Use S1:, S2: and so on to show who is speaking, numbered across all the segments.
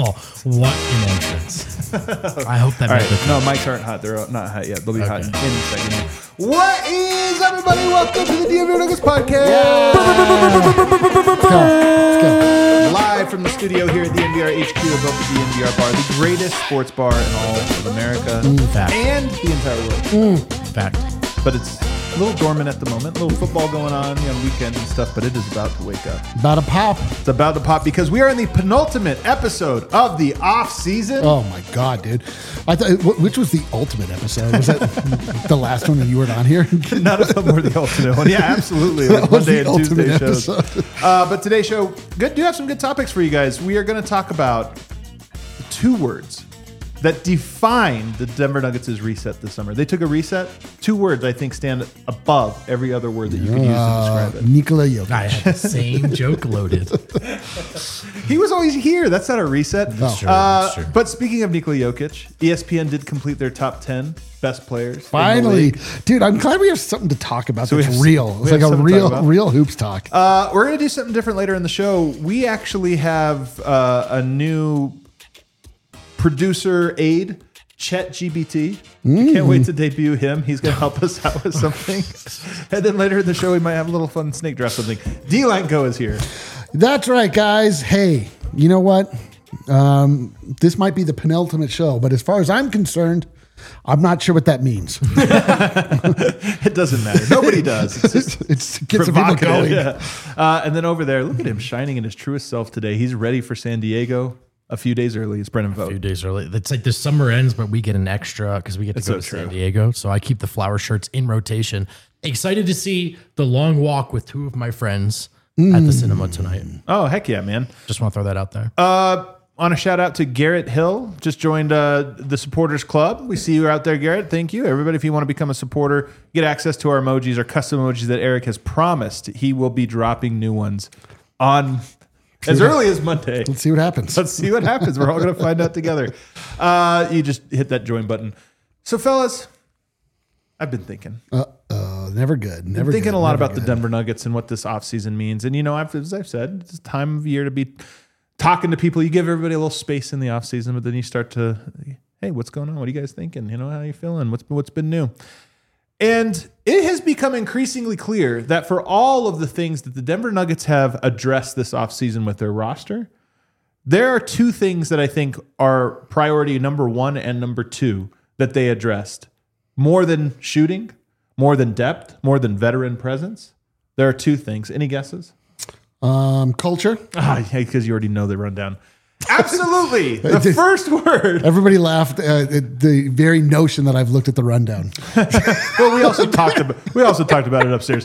S1: what an entrance. I hope that made the
S2: No, mics aren't hot. They're not hot yet. They'll be hot in a second. What is everybody? Welcome to the DNVR Nuggets podcast.
S3: Let's go.
S2: Live from the studio here at the NVR HQ above the DNVR bar, the greatest sports bar in all of America
S1: fact.
S2: and the entire world.
S1: fact.
S2: But it's a little dormant at the moment. A little football going on weekend and stuff, but it is about to wake up.
S3: About a pop.
S2: It's about to pop because we are in the penultimate episode of the off season.
S3: Oh my God, dude! I thought which was the ultimate episode? Was that the last one that you weren't on here?
S2: None of them were the ultimate one. Yeah, absolutely. It was Monday and Tuesday shows. But today's show, do have some good topics for you guys. We are going to talk about two words that define the Denver Nuggets' reset this summer. They took a reset. Two words, I think, stand above every other word that you could use to describe it.
S3: Nikola Jokic.
S1: I had the same joke loaded.
S2: He was always here. That's not a reset.
S1: That's true. That's true.
S2: But speaking of Nikola Jokic, ESPN did complete their top 10 best players. in the
S3: Finally,
S2: league.
S3: dude, I'm glad we have something to talk about
S2: So we
S3: that's
S2: have-
S3: real.
S2: we
S3: It's
S2: have
S3: like a
S2: something to talk about.
S3: real hoops talk.
S2: We're going to do something different later in the show. We actually have a new producer aide, ChatGPT. Can't wait to debut him. He's going to help us out with something. And then later in the show, we might have a little fun snake draft something. D-Line Go is here.
S3: That's right, guys. Hey, you know what? This might be the penultimate show, but as far as I'm concerned, I'm not sure what that means.
S2: It doesn't matter. Nobody does. It's just
S3: It's to get some people
S2: provocative.
S3: going.
S2: Yeah. And then over there, look at him shining in his truest self today. He's ready for San Diego a few days early. It's Brennan
S1: A few
S2: Vogt.
S1: days early. It's like the summer ends, but we get an extra because we get to
S2: It's
S1: go
S2: so
S1: to San
S2: true.
S1: Diego. So I keep the flower shirts in rotation. Excited to see the long walk with two of my friends at the cinema tonight.
S2: Oh, heck yeah, man.
S1: Just want to throw that out there.
S2: On a shout out to Garrett Hill, just joined the supporters club. We see you out there, Garrett. Thank you, everybody. If you want to become a supporter, get access to our emojis, our custom emojis that Eric has promised. He will be dropping new ones on as early as Monday.
S3: Let's see what happens.
S2: Let's see what happens. We're all going to find out together. You just hit that join button. So, fellas, I've been thinking.
S3: Never good. Never
S2: Thinking
S3: good,
S2: a lot
S3: never
S2: about the
S3: good.
S2: Denver Nuggets and what this offseason means. And, as I've said, it's time of year to be talking to people. You give everybody a little space in the offseason, but then you start to, hey, what's going on? What are you guys thinking? How you feeling? What's been new? And it has become increasingly clear that for all of the things that the Denver Nuggets have addressed this offseason with their roster, there are two things that I think are priority number one and number two that they addressed. More than shooting, more than depth, more than veteran presence. There are two things. Any guesses?
S3: Culture.
S2: Because you already know the rundown. Absolutely. The first word.
S3: Everybody laughed at the very notion that I've looked at the rundown.
S2: Well, we also talked about it upstairs.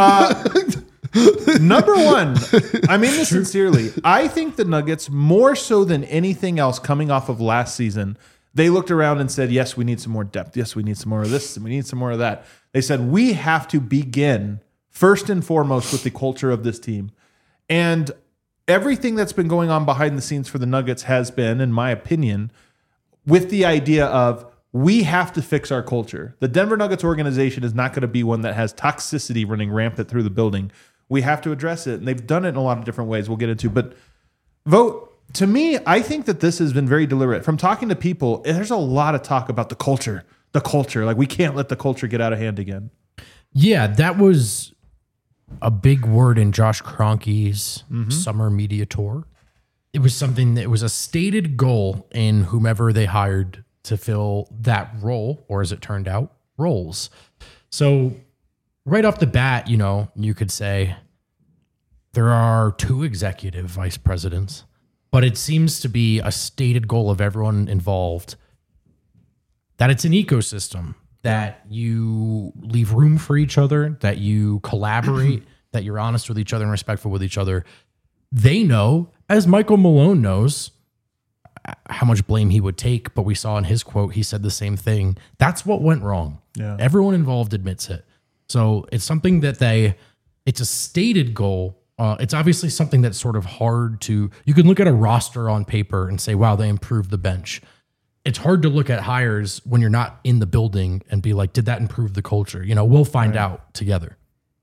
S2: Number one, I mean this sincerely. I think the Nuggets, more so than anything else coming off of last season, they looked around and said, yes, we need some more depth. Yes, we need some more of this. And we need some more of that. They said, we have to begin first and foremost with the culture of this team. And everything that's been going on behind the scenes for the Nuggets has been, in my opinion, with the idea of we have to fix our culture. The Denver Nuggets organization is not going to be one that has toxicity running rampant through the building. We have to address it. And they've done it in a lot of different ways we'll get into. But Vogt, to me, I think that this has been very deliberate. From talking to people, there's a lot of talk about the culture. The culture. Like, we can't let the culture get out of hand again.
S1: Yeah, that was a big word in Josh Kroenke's summer media tour. It was something that was a stated goal in whomever they hired to fill that role, or as it turned out, roles. So right off the bat, you could say there are two executive vice presidents, but it seems to be a stated goal of everyone involved that it's an ecosystem, that you leave room for each other, that you collaborate, that you're honest with each other and respectful with each other. They know, as Michael Malone knows, how much blame he would take, but we saw in his quote, he said the same thing. That's what went wrong.
S2: Yeah.
S1: Everyone involved admits it. So it's something that it's a stated goal. It's obviously something that's sort of hard to, you can look at a roster on paper and say, wow, they improved the bench. It's hard to look at hires when you're not in the building and be like, did that improve the culture? We'll find out together.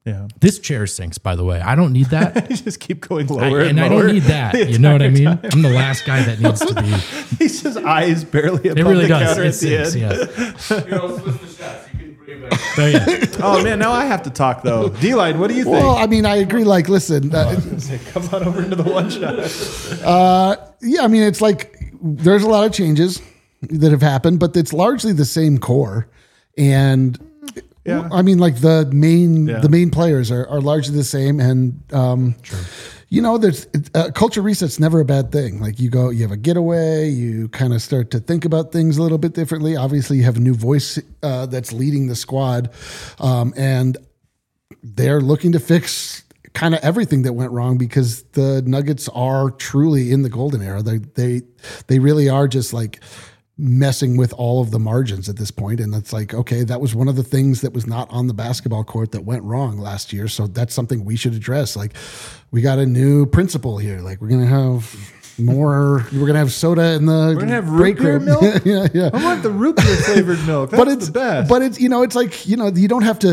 S2: Yeah.
S1: This chair sinks, by the way. I don't need that.
S2: You just keep going lower and
S1: I
S2: lower.
S1: don't need that.
S2: the
S1: You know what I mean?
S2: entire
S1: I'm the last guy that needs to be.
S2: He's just eyes barely above
S1: It really
S2: the
S1: does.
S2: counter
S1: It
S2: at the
S1: sinks,
S2: end.
S1: yeah.
S4: You know, switch the shots. You can bring it back.
S1: So, yeah.
S2: Oh man, now I have to talk though. D-Line, what do you think?
S3: Well, I mean, I agree. Like, listen,
S2: Come on over into the one shot.
S3: yeah, I mean, it's like there's a lot of changes that have happened, but it's largely the same core. And
S2: Yeah.
S3: I mean, like the main players are largely the same. And, you know, there's culture reset's never a bad thing. Like you have a getaway, you kind of start to think about things a little bit differently. Obviously you have a new voice that's leading the squad. And they're looking to fix kind of everything that went wrong because the Nuggets are truly in the golden era. They really are just like messing with all of the margins at this point. And it's like, okay, that was one of the things that was not on the basketball court that went wrong last year. So that's something we should address. Like we got a new principle here. Like we're going to have we're going to have soda in the
S2: We're gonna have
S3: break
S2: root beer
S3: room.
S2: milk.
S3: yeah.
S2: I want the root beer flavored milk. That's
S3: But it's
S2: the best.
S3: But it's, you know, it's like, you know, they don't have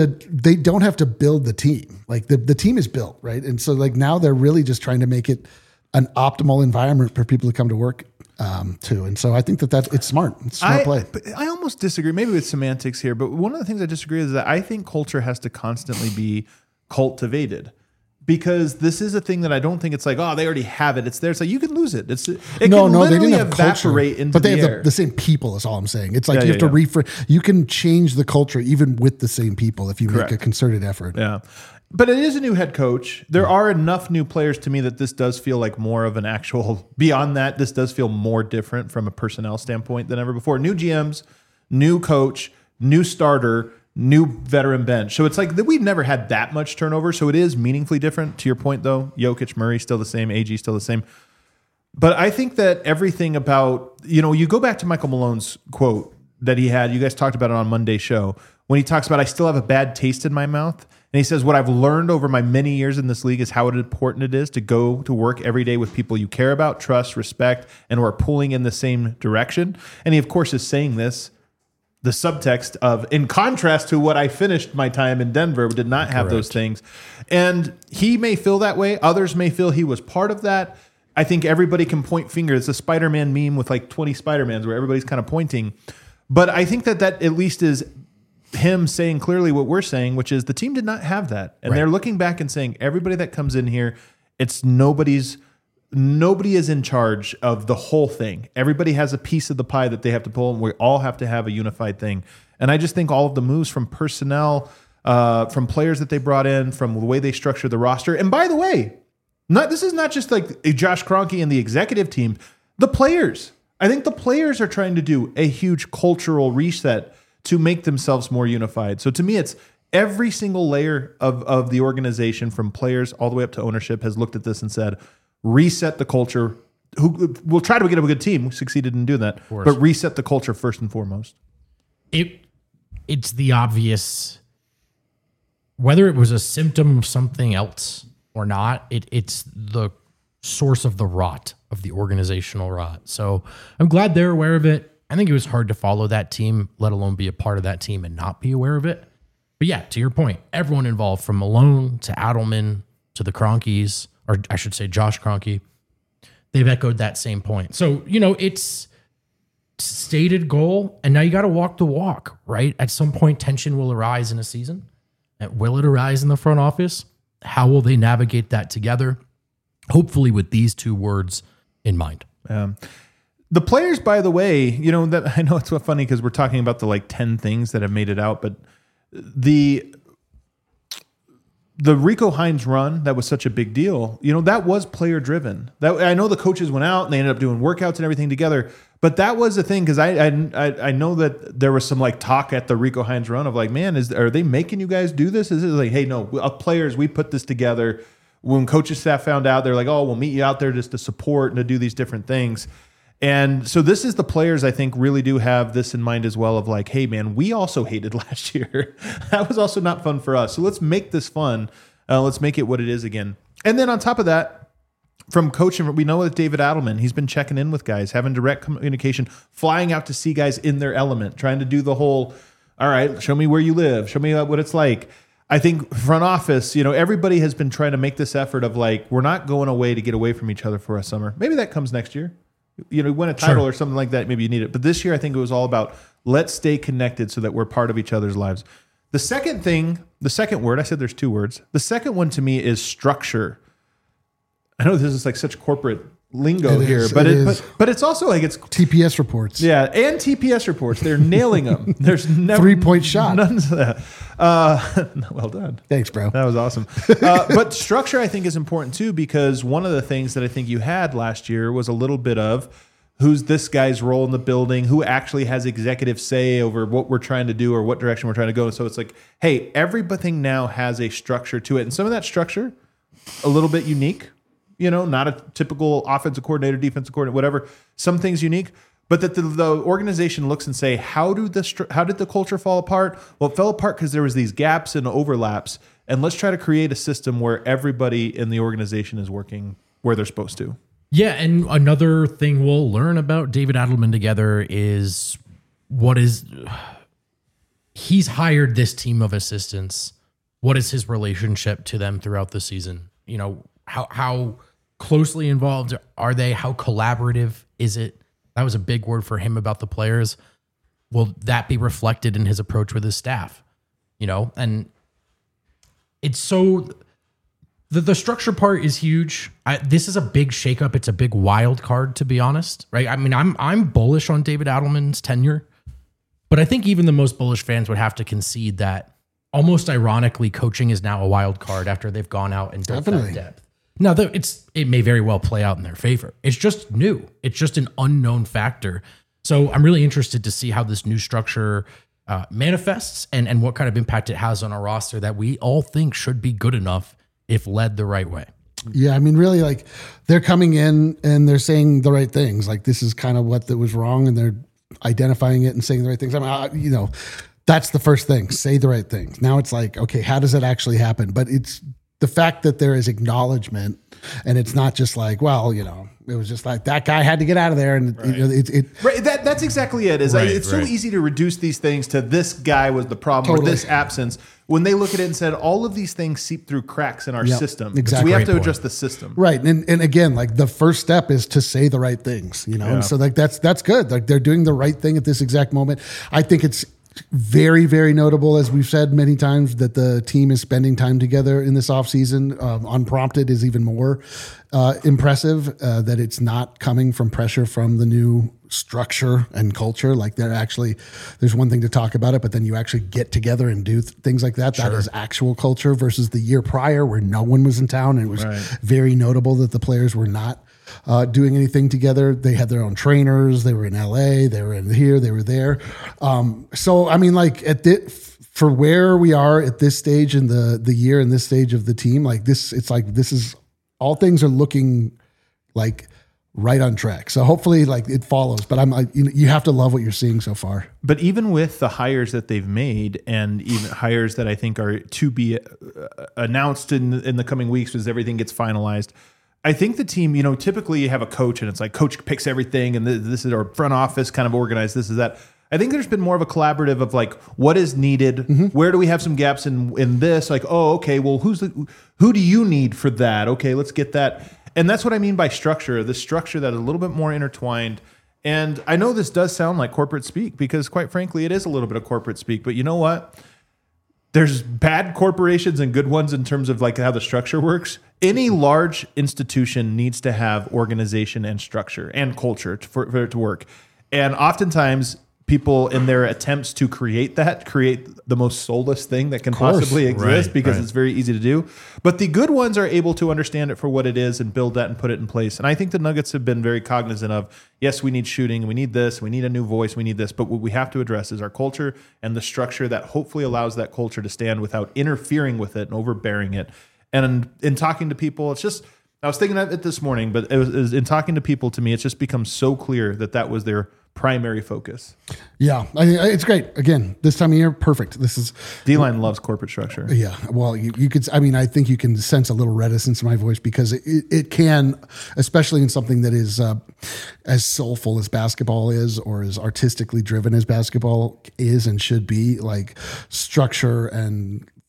S3: to build the team. Like the team is built, right? And so like now they're really just trying to make it an optimal environment for people to come to work too. And so I think it's smart. It's smart play.
S2: But I almost disagree, maybe with semantics here, but one of the things I disagree is that I think culture has to constantly be cultivated. Because this is a thing that I don't think it's like, oh, they already have it. It's there. It's like you can lose it. It can
S3: They
S2: literally
S3: didn't have
S2: evaporate
S3: culture,
S2: into
S3: but they
S2: the
S3: have
S2: air.
S3: the same people. Is all I'm saying. It's like
S2: Yeah,
S3: you have
S2: yeah,
S3: to refresh. You can change the culture even with the same people if you
S2: Correct.
S3: make a concerted effort.
S2: Yeah. But it is a new head coach. There are enough new players to me that this does feel like more of an actual, beyond that, this does feel more different from a personnel standpoint than ever before. New GMs, new coach, new starter, new veteran bench. So it's like that we've never had that much turnover. So it is meaningfully different. To your point, though, Jokic, Murray still the same, AG still the same. But I think that everything about, you know, you go back to Michael Malone's quote that he had, you guys talked about it on Monday's show, when he talks about, I still have a bad taste in my mouth. And he says, what I've learned over my many years in this league is how important it is to go to work every day with people you care about, trust, respect, and who are pulling in the same direction. And he, of course, is saying this, the subtext of, in contrast to what I finished my time in Denver, did not have those things. And he may feel that way. Others may feel he was part of that. I think everybody can point fingers. It's a Spider-Man meme with like 20 Spider-Mans where everybody's kind of pointing. But I think that at least is him saying clearly what we're saying, which is the team did not have that. And they're looking back and saying, everybody that comes in here, it's nobody is in charge of the whole thing. Everybody has a piece of the pie that they have to pull, and we all have to have a unified thing. And I just think all of the moves from personnel, from players that they brought in, from the way they structure the roster. And by the way, this is not just like Josh Kroenke and the executive team. The players. I think the players are trying to do a huge cultural reset to make themselves more unified. So to me, it's every single layer of the organization, from players all the way up to ownership, has looked at this and said, reset the culture. We'll try to get a good team. We succeeded in doing that. But reset the culture first and foremost.
S1: It's the obvious, whether it was a symptom of something else or not, it's the source of the rot, of the organizational rot. So I'm glad they're aware of it. I think it was hard to follow that team, let alone be a part of that team and not be aware of it. But yeah, to your point, everyone involved, from Malone to Adelman to the Kroenkes, or I should say Josh Kroenke, they've echoed that same point. So, you know, it's stated goal, and now you got to walk the walk, right? At some point, tension will arise in a season. And will it arise in the front office? How will they navigate that together? Hopefully with these two words in mind.
S2: The players, by the way, you know, that I know it's so funny because we're talking about the like 10 things that have made it out, but the Rico Hines run, that was such a big deal. You know, that was player driven. That, I know the coaches went out and they ended up doing workouts and everything together, but that was the thing, because I know that there was some like talk at the Rico Hines run of like, man, are they making you guys do this? Is it like, hey, no, players, we put this together. When coaching staff found out, they're like, oh, we'll meet you out there just to support and to do these different things. And so this is the players, I think, really do have this in mind as well, of like, hey, man, we also hated last year. That was also not fun for us. So let's make this fun. Let's make it what it is again. And then on top of that, from coaching, we know with David Adelman, he's been checking in with guys, having direct communication, flying out to see guys in their element, trying to do the whole, all right, show me where you live, show me what it's like. I think front office, everybody has been trying to make this effort of like, we're not going away to get away from each other for a summer. Maybe that comes next year. Win a title or something like that. Maybe you need it. But this year, I think it was all about let's stay connected so that we're part of each other's lives. The second word, I said there's 2 words. The second one to me is structure. I know this is like such corporate lingo here, but it's also like it's
S3: TPS reports.
S2: Yeah, and TPS reports. They're nailing them. There's never
S3: 3-point shot.
S2: None of that. Well done.
S3: Thanks, bro.
S2: That was awesome. But structure, I think, is important too, because one of the things that I think you had last year was a little bit of who's this guy's role in the building, who actually has executive say over what we're trying to do or what direction we're trying to go. So it's like, hey, everything now has a structure to it. And some of that structure, a little bit unique, not a typical offensive coordinator, defensive coordinator, whatever. Some things unique, but that the organization looks and say, how did the culture fall apart? Well, it fell apart because there was these gaps and overlaps. And let's try to create a system where everybody in the organization is working where they're supposed to.
S1: Yeah, and another thing we'll learn about David Adelman together is he's hired this team of assistants. What is his relationship to them throughout the season? How closely involved are they? How collaborative is it? That was a big word for him about the players. Will that be reflected in his approach with his staff? And it's so... The structure part is huge. This is a big shakeup. It's a big wild card, to be honest, right? I mean, I'm bullish on David Adelman's tenure, but I think even the most bullish fans would have to concede that, almost ironically, coaching is now a wild card after they've gone out and built that depth. Now, it may very well play out in their favor. It's just new. It's just an unknown factor. So I'm really interested to see how this new structure manifests and what kind of impact it has on a roster that we all think should be good enough if led the right way.
S3: Yeah, I mean, really, like, they're coming in and they're saying the right things. Like, this is kind of what that was wrong, and they're identifying it and saying the right things. I mean, that's the first thing. Say the right things. Now it's like, okay, how does it actually happen? But it's the fact that there is acknowledgement, and it's not just like, well, it was just like that guy had to get out of there, and
S2: right. That's exactly it. It's so easy to reduce these things to this guy was the problem or this absence. When they look at it and said all of these things seep through cracks in our system,
S3: exactly.
S2: So we have to adjust the system,
S3: right? And again, like the first step is to say the right things, And so like that's good. Like they're doing the right thing at this exact moment. I think it's very, very notable, as we've said many times, that the team is spending time together in this offseason. Unprompted is even more impressive, that it's not coming from pressure from the new structure and culture. Like there's one thing to talk about it, but then you actually get together and do things like that. Sure. That is actual culture versus the year prior where no one was in town. And it was very notable that the players were not doing anything together. They had their own trainers. They were in LA. They were in here. They were there. So, I mean, like for where we are at this stage in the year and this stage of the team, like this, it's like, this is all things are looking like right on track. So hopefully like it follows, but I'm like, you have to love what you're seeing so far.
S2: But even with the hires that they've made, and even hires that I think are to be announced in the coming weeks as everything gets finalized, I think the team, typically you have a coach and it's like coach picks everything and this is our front office kind of organized, this is that. I think there's been more of a collaborative of like, what is needed? Mm-hmm. Where do we have some gaps in this? Like, oh, okay, well, who do you need for that? Okay, let's get that. And that's what I mean by structure, the structure that is a little bit more intertwined. And I know this does sound like corporate speak because quite frankly, it is a little bit of corporate speak, but you know what? There's bad corporations and good ones in terms of like how the structure works. Any large institution needs to have organization and structure and culture for it to work. And oftentimes people in their attempts to create the most soulless thing that can possibly exist because it's very easy to do. But the good ones are able to understand it for what it is and build that and put it in place. And I think the Nuggets have been very cognizant of, yes, we need shooting, we need this, we need a new voice, we need this. But what we have to address is our culture and the structure that hopefully allows that culture to stand without interfering with it and overbearing it. And in talking to people, it's just, I was thinking of it this morning, but it was in talking to people, to me, it's just become so clear that was their primary focus.
S3: Yeah, I mean, it's great. Again, this time of year, perfect. This is
S2: D-line loves corporate structure.
S3: Yeah, well, you could. I mean, I think you can sense a little reticence in my voice because it can, especially in something that is as soulful as basketball is, or as artistically driven as basketball is and should be. Like structure and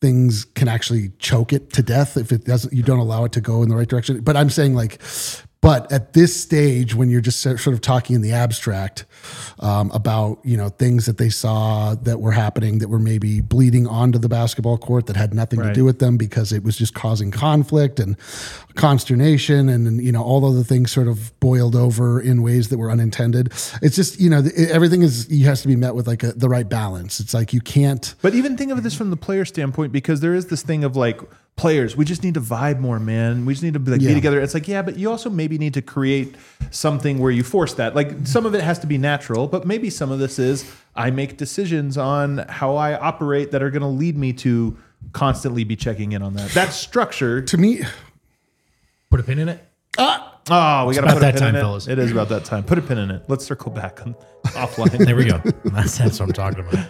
S3: things can actually choke it to death if it doesn't, you don't allow it to go in the right direction. But I'm saying like, but at this stage, when you're just sort of talking in the abstract about, you know, things that they saw that were happening that were maybe bleeding onto the basketball court that had nothing to do with them because it was just causing conflict and consternation and, you know, all of the things sort of boiled over in ways that were unintended. It's just, you know, everything has to be met with like the right balance. It's like you can't.
S2: But even think of this from the player standpoint, because there is this thing of like, players, we just need to vibe more, man. We just need to be together. It's like, yeah, but you also maybe need to create something where you force that. Like some of it has to be natural, but maybe some of this is I make decisions on how I operate that are going to lead me to constantly be checking in on that. That's structure.
S3: To me,
S1: put a pin in it.
S2: Oh, we got to put a pin in it.
S1: Fellas.
S2: It is about that time. Put a pin in it. Let's circle back on offline.
S1: There we go. That's what I'm talking about.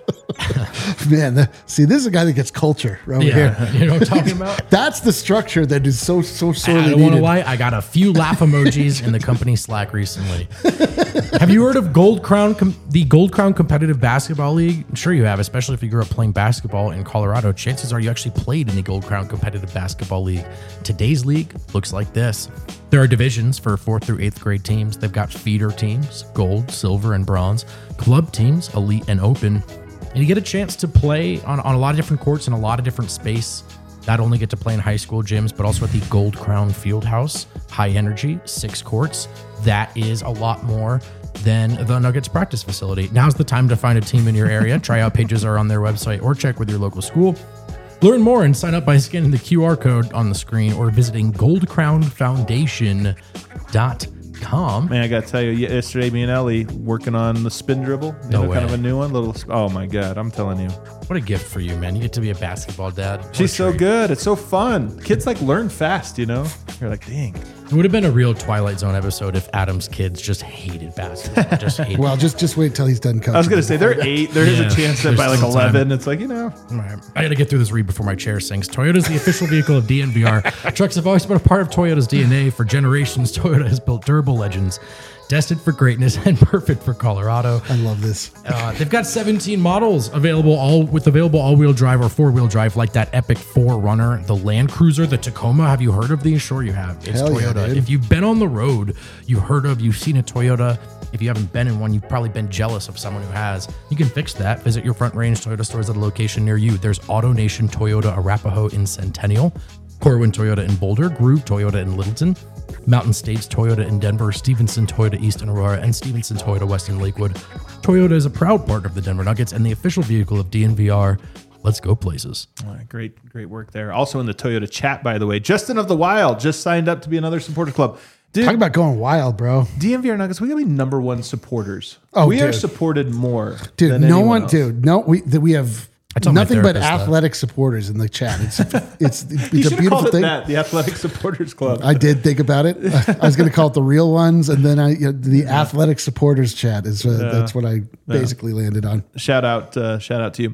S3: Man, see, this is a guy that gets culture right here.
S1: You know what I'm talking about?
S3: That's the structure that is so sorely
S1: I don't want to
S3: needed.
S1: lie. I got a few laugh emojis in the company Slack recently. Have you heard of the Gold Crown Competitive Basketball League? I'm sure you have, especially if you grew up playing basketball in Colorado. Chances are you actually played in the Gold Crown Competitive Basketball League. Today's league looks like this. There are divisions for 4th through 8th grade teams. They've got feeder teams, gold, silver, and bronze, club teams, elite and open. And you get a chance to play on a lot of different courts in a lot of different space. Not only get to play in high school gyms, but also at the Gold Crown Fieldhouse, high energy, 6 courts. That is a lot more than the Nuggets practice facility. Now's the time to find a team in your area. Tryout pages are on their website or check with your local school. Learn more and sign up by scanning the QR code on the screen or visiting goldcrownfoundation.com.
S2: Man, I got to tell you, yesterday me and Ellie working on the spin dribble.
S1: No way.
S2: Kind of a new one. Oh my God, I'm telling you.
S1: What a gift for you, man. You get to be a basketball dad. What
S2: She's
S1: a
S2: so
S1: treat.
S2: good. It's so fun. Kids like learn fast, you know? You're like, dang.
S1: It would have been a real Twilight Zone episode if Adam's kids just hated basketball. Just hated
S3: Well, just wait till he's done coaching.
S2: I was going to say, they're 8. There is
S1: Yeah,
S2: a chance that
S1: there's
S2: by like
S1: still
S2: 11, it's like, you know.
S1: All right. I got to get through this read before my chair sinks. Toyota's the official vehicle of DNVR. Trucks have always been a part of Toyota's DNA. For generations, Toyota has built durable legends, destined for greatness and perfect for Colorado.
S3: I love this.
S1: They've got 17 models available all-wheel drive or 4-wheel drive, like that epic 4Runner, the Land Cruiser, the Tacoma. Have you heard of these? Sure you have. It's
S3: Hell yeah,
S1: Toyota.
S3: dude.
S1: If you've been on the road, you've seen a Toyota. If you haven't been in one, you've probably been jealous of someone who has. You can fix that. Visit your Front Range Toyota stores at a location near you. There's AutoNation Toyota Arapahoe in Centennial, Corwin Toyota in Boulder, Groove Toyota in Littleton, Mountain States Toyota in Denver, Stevenson Toyota East in Aurora, and Stevenson Toyota West in Lakewood. Toyota is a proud partner of the Denver Nuggets and the official vehicle of DNVR. Let's go places.
S2: All right, great work there. Also in the Toyota chat, by the way, Justin of the Wild just signed up to be another supporter club. Dude,
S3: Talk about going wild, bro.
S2: DNVR Nuggets, we got to be number 1 supporters.
S3: Oh,
S2: we are
S3: dude.
S2: supported more
S3: Dude,
S2: than
S3: no
S2: anyone
S3: one,
S2: else.
S3: dude, no, we have
S1: tell my
S3: nothing but
S1: therapist that.
S3: athletic supporters in the chat. It's
S2: You
S3: it's
S2: should
S3: a
S2: have
S3: beautiful
S2: called it
S3: thing.
S2: that, the Athletic Supporters Club.
S3: I did think about it. I was going to call it the real ones, and then the athletic supporters chat is that's what I basically landed on.
S2: Shout out to you.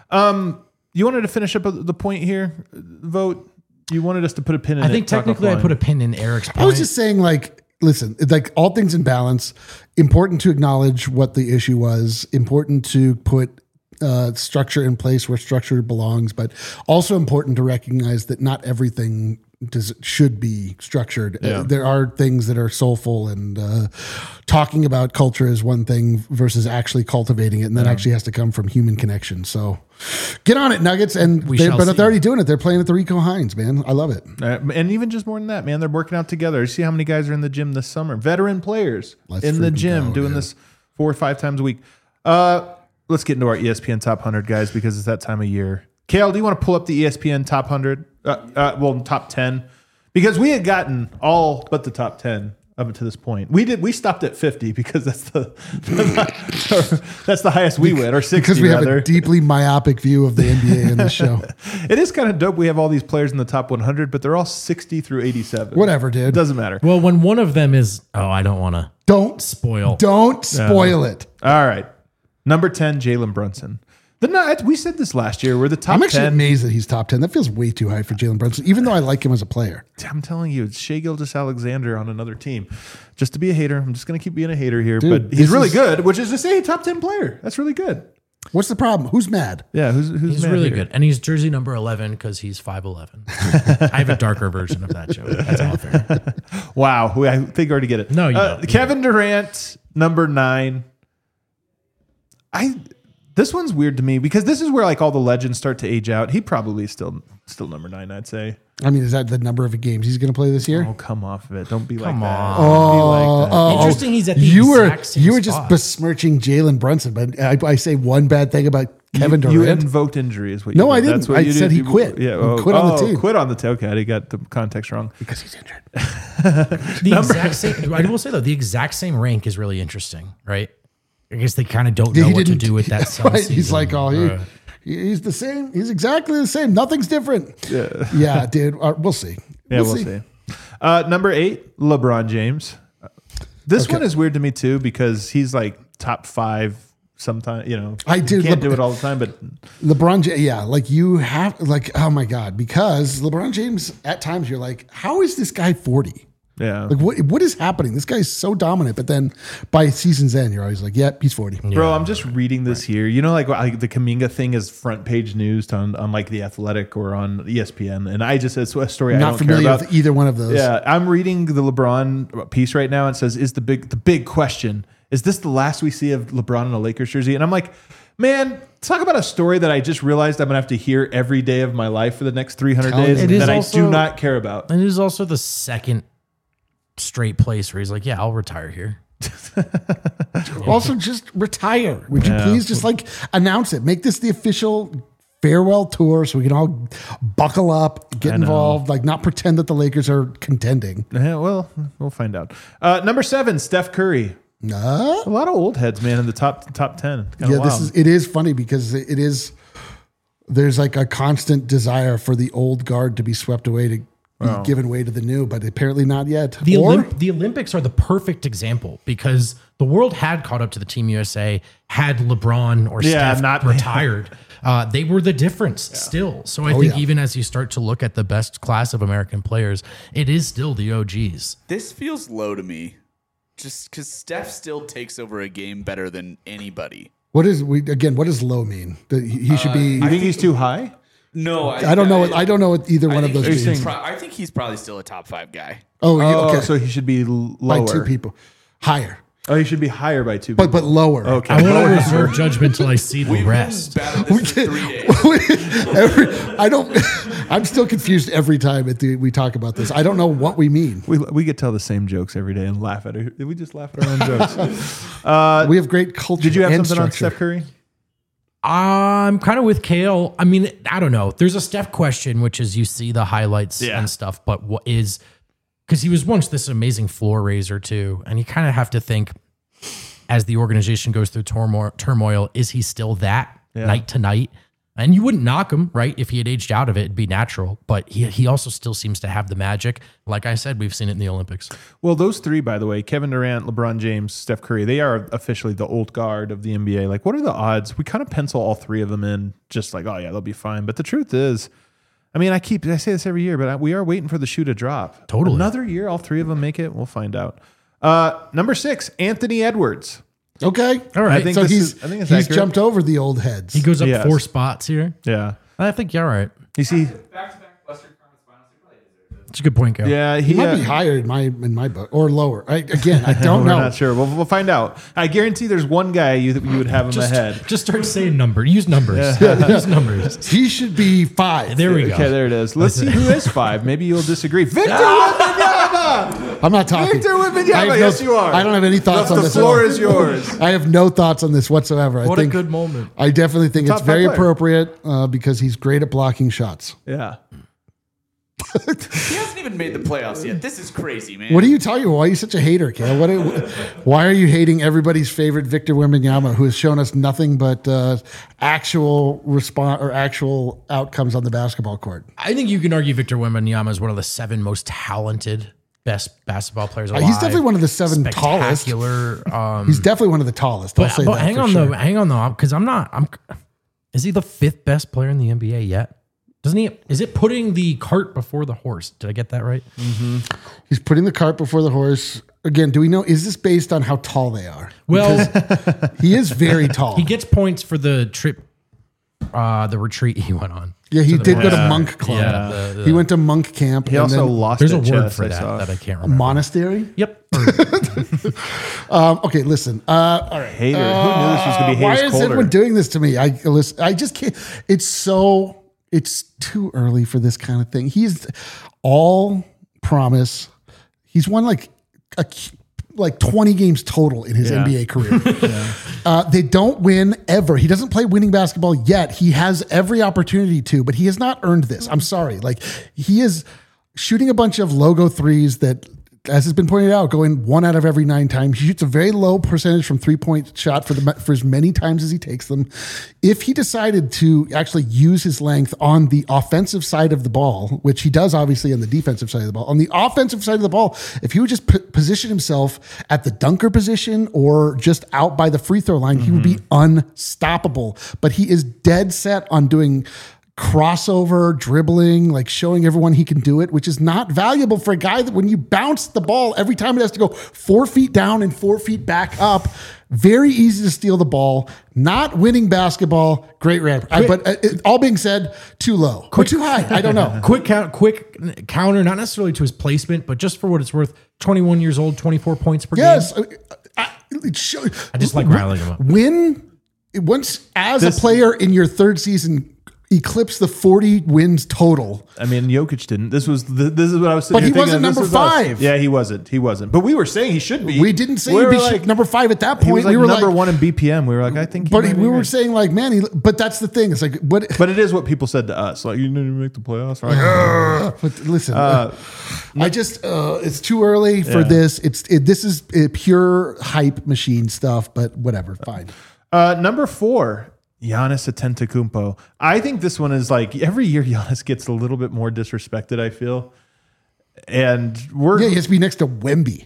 S2: You wanted to finish up the point here, Vote. You wanted us to put a pin in it.
S1: I think technically I put a pin in Eric's point.
S3: I was just saying, like, listen, like all things in balance, important to acknowledge what the issue was, important to put structure in place where structure belongs, but also important to recognize that not everything should be structured.
S2: Yeah.
S3: There are things that are soulful, and talking about culture is one thing versus actually cultivating it, and that actually has to come from human connection. So get on it, Nuggets. And
S1: shall
S3: but
S1: see.
S3: they're already doing it. They're playing at the Rico Hines, man. I love it.
S2: And even just more than that, man, they're working out together. You see how many guys are in the gym this summer? Veteran players
S3: Let's
S2: in the
S3: freaking
S2: gym
S3: go,
S2: doing
S3: dude.
S2: this 4 or 5 times a week. Let's get into our ESPN Top 100, guys, because it's that time of year. Kale, do you want to pull up the ESPN Top 100? Top 10. Because we had gotten all but the top 10 up to this point. We stopped at 50 because that's the highest we went, or 60
S3: Because we have
S2: rather.
S3: a deeply myopic view of the NBA in this show.
S2: It is kind of dope. We have all these players in the top 100, but they're all 60 through 87.
S3: Whatever, dude.
S2: It doesn't matter.
S1: well, when one of them is, I don't want to
S3: Don't
S1: spoil.
S3: Don't spoil it.
S2: All right. Number 10, Jalen Brunson. We said this last year. We're the top
S3: I'm actually
S2: 10.
S3: amazed that he's top 10. That feels way too high for Jalen Brunson, even though I like him as a player.
S2: I'm telling you, it's Shai Gilgeous-Alexander on another team. Just to be a hater. I'm just going to keep being a hater here.
S3: Dude,
S2: but he's
S3: this
S2: really
S3: is-
S2: good, which is to say top 10 player. That's really good.
S3: What's the problem? Who's mad?
S2: Yeah, who's
S1: He's
S2: mad
S1: really
S2: here?
S1: good. And he's jersey number 11 because he's 5'11". I have a darker version of that joke. That's all fair.
S2: Wow, I think I already get it.
S1: No, you don't.
S2: Kevin Durant, number 9. This one's weird to me because this is where like all the legends start to age out. He probably is still number 9, I'd say.
S3: I mean, is that the number of games he's going to play this year?
S2: Oh, come off of it. Don't be
S1: Come
S2: like that.
S1: on.
S2: Don't be like that.
S1: Interesting he's at the
S3: you
S1: exact same
S3: You were just
S1: spot.
S3: besmirching Jalen Brunson, but I say one bad thing about Kevin
S2: You
S3: Durant.
S2: invoked injury is what you
S3: No,
S2: did.
S3: I didn't.
S2: That's what
S3: I
S2: you
S3: said
S2: did.
S3: he quit.
S2: Yeah,
S3: He quit on the team.
S2: Quit on the team. Okay, I got the context wrong.
S3: because he's injured.
S1: The exact same. I will say though, the exact same rank is really interesting, right? I guess they kind of don't know
S3: He
S1: what to
S3: didn't-
S1: do with that.
S3: Right?
S1: Season.
S3: He's like, he's the same. He's exactly the same. Nothing's different. Yeah, dude. We'll see.
S2: Yeah, we'll see. Number 8, LeBron James. This one is weird to me too because he's like top 5 sometimes.
S3: I do.
S2: Can't do it all the time, but
S3: LeBron James, yeah, like you have, like, oh my God, because LeBron James, at times you're like, how is this guy 40?
S2: yeah.
S3: Like, what is happening? This guy's so dominant, but then by season's end, you're always like, yep, he's 40.
S2: Bro, I'm just reading this here. Like the Kuminga thing is front page news on like The Athletic or on ESPN, and it's a story I
S3: Not
S2: don't care
S3: familiar
S2: about.
S3: with either one of those.
S2: Yeah, I'm reading the LeBron piece right now. And it says, "Is the big question? Is this the last we see of LeBron in a Lakers jersey?" And I'm like, man, talk about a story that I just realized I'm gonna have to hear every day of my life for the next 300 days
S1: It is
S2: that I
S1: also-
S2: do not care about.
S1: And it is also the second straight place where he's like, yeah, I'll retire here.
S3: Also, just retire. Would you please just like announce it? Make this the official farewell tour so we can all buckle up, get involved, like not pretend that the Lakers are contending.
S2: Yeah, well, we'll find out. Number 7, Steph Curry.
S3: No.
S2: A lot of old heads, man, in the top 10. Kinda
S3: Yeah,
S2: wild.
S3: it is funny because there's like a constant desire for the old guard to be swept away to be given way to the new, but apparently not yet.
S1: The Olympics are the perfect example because the world had caught up to the Team USA had LeBron or Steph
S2: not-
S1: retired. They were the difference still. So I think even as you start to look at the best class of American players, it is still the OGs.
S5: This feels low to me, just because Steph still takes over a game better than anybody.
S3: what does low mean? That he should be.
S2: You think he's too high?
S5: No,
S3: I don't know. I don't know what either one of those
S2: he's
S3: means.
S2: saying-
S5: I think he's probably still a top 5 guy.
S3: Oh, okay.
S2: So he should be
S3: By
S2: lower.
S3: 2 people, higher,
S2: Oh, he should be higher by 2 people.
S3: but lower.
S2: Okay.
S1: I want to reserve judgment until I see the rest.
S5: Battled this for 3 days.
S3: I'm still confused every time we talk about this. I don't know what we mean.
S2: We get to tell the same jokes every day and laugh at it. We just laugh at our own jokes.
S3: We have great culture.
S2: Did you have
S3: and
S2: something on
S3: structure.
S2: Steph Curry?
S1: I'm kind of with Kale. I mean, I don't know. There's a Steph question, which is you see the highlights and stuff, but what is, because he was once this amazing floor raiser too. And you kind of have to think as the organization goes through turmoil, is he still that night to night? And you wouldn't knock him, right? If he had aged out of it, it'd be natural. But he also still seems to have the magic. Like I said, we've seen it in the Olympics.
S2: Well, those 3, by the way, Kevin Durant, LeBron James, Steph Curry, they are officially the old guard of the NBA. Like, what are the odds? We kind of pencil all 3 of them in just like, oh, yeah, they'll be fine. But the truth is, I mean, I say this every year, but we are waiting for the shoe to drop.
S1: Totally.
S2: Another year, all 3 of them make it. We'll find out. Number 6, Anthony Edwards.
S3: Okay,
S1: All right.
S2: I think
S3: so
S2: it's
S3: he's
S2: accurate.
S3: jumped over the old heads.
S1: He goes up
S2: Yes.
S1: 4 spots here.
S2: Yeah.
S1: I think you're all right.
S2: You see,
S4: Back-to-back Western Conference Finals, he probably deserves it.
S1: It's a good point, Kale.
S2: yeah,
S3: He might be higher in my book or lower. I don't
S2: We're
S3: know.
S2: not sure. We'll find out. I guarantee there's one guy you would have him ahead.
S1: Just start saying numbers. Use numbers. Use numbers.
S3: He should be 5.
S1: There we go.
S2: Okay, there it is. Let's see who is 5. Maybe you'll disagree. Victor Wembanyama!
S3: I'm not talking.
S2: Victor
S3: I
S2: Wembanyama!
S3: have
S2: Yes, you are.
S3: I don't have any thoughts on
S2: The
S3: this. at
S2: floor
S3: all.
S2: is yours.
S3: I have no thoughts on this whatsoever.
S1: What
S3: I
S1: a
S3: think
S1: good moment.
S3: I definitely think
S2: Top
S3: it's very
S2: 5 player.
S3: appropriate because he's great at blocking shots.
S2: Yeah.
S5: He hasn't even made the playoffs yet. This is crazy, man.
S3: What are you talking about? Why are you such a hater, Kale? Why are you hating everybody's favorite Victor Wembanyama, who has shown us nothing but actual response or actual outcomes on the basketball court?
S1: I think you can argue Victor Wembanyama is one of the 7 most talented, best basketball players alive.
S3: He's definitely one of the 7 tallest.
S1: Spectacular.
S3: He's definitely one of the tallest. I'll say
S1: but
S3: that
S1: hang
S3: for
S1: on
S3: sure.
S1: though, because is he the 5th best player in the NBA yet? Doesn't he? Is it putting the cart before the horse? Did I get that right?
S3: He's putting the cart before the horse. Again, do we know, is this based on how tall they are?
S1: Well,
S3: He is very tall.
S1: he gets points for the trip, the retreat he went on.
S3: Yeah, he did go to
S2: Yeah.
S3: Monk Club.
S1: Yeah,
S3: He went to Monk Camp.
S2: He
S3: and
S2: also
S3: then
S2: lost
S1: There's a
S2: at
S1: word
S2: chess,
S1: for
S2: I
S1: that
S2: saw.
S1: that I can't
S3: a
S1: remember.
S3: monastery.
S1: Yep.
S3: Okay, listen. All right.
S2: Hater. Who knew this was going to be
S3: Why
S2: Hayes
S3: is
S2: Coulter?
S3: everyone doing this to me? I just can't. It's too early for this kind of thing. He's all promise. He's won like 20 games total in his
S2: Yeah.
S3: NBA career. They don't win ever. He doesn't play winning basketball yet. He has every opportunity to, but he has not earned this. I'm sorry. Like, he is shooting a bunch of logo threes that, as has been pointed out, going 1 out of every 9 times. He shoots a very low percentage from 3-point shot for as many times as he takes them. If he decided to actually use his length on the offensive side of the ball, which he does obviously on the defensive side of the ball, on the offensive side of the ball, if he would just position himself at the dunker position or just out by the free throw line, he would be unstoppable. But he is dead set on doing crossover dribbling, like showing everyone he can do it, which is not valuable for a guy that when you bounce the ball, every time it has to go 4 feet down and 4 feet back up, very easy to steal the ball, not winning basketball, great rap. But all being said, too low or too high. I don't know.
S1: Quick counter, not necessarily to his placement, but just for what it's worth. 21 years old, 24 points per
S3: Yes.
S1: game.
S3: I
S1: just like riling him up.
S3: Once as a player in your third season, eclipse the 40 wins total.
S2: I mean, Jokic didn't. This is what I was.
S3: But
S2: Sitting
S3: he
S2: here
S3: wasn't
S2: thinking, this
S3: number
S2: is us.
S3: 5.
S2: Yeah, he wasn't. But we were saying he should be.
S3: We didn't say
S2: We
S3: he'd
S2: were
S3: be
S2: like,
S3: number 5 at that
S2: He was
S3: point.
S2: like
S3: We were
S2: number
S3: like,
S2: 1 in BPM. We were like, I think.
S3: but we were saying like, man, but that's the thing. It's like, what?
S2: But it is what people said to us. Like, you didn't make the playoffs. We're like, "Ugh."
S3: But listen, I just it's too early for this. This is pure hype machine stuff. But whatever, fine.
S2: Number 4, Giannis Antetokounmpo. I think this one is like every year Giannis gets a little bit more disrespected, I feel. And
S3: He has to be next to Wemby.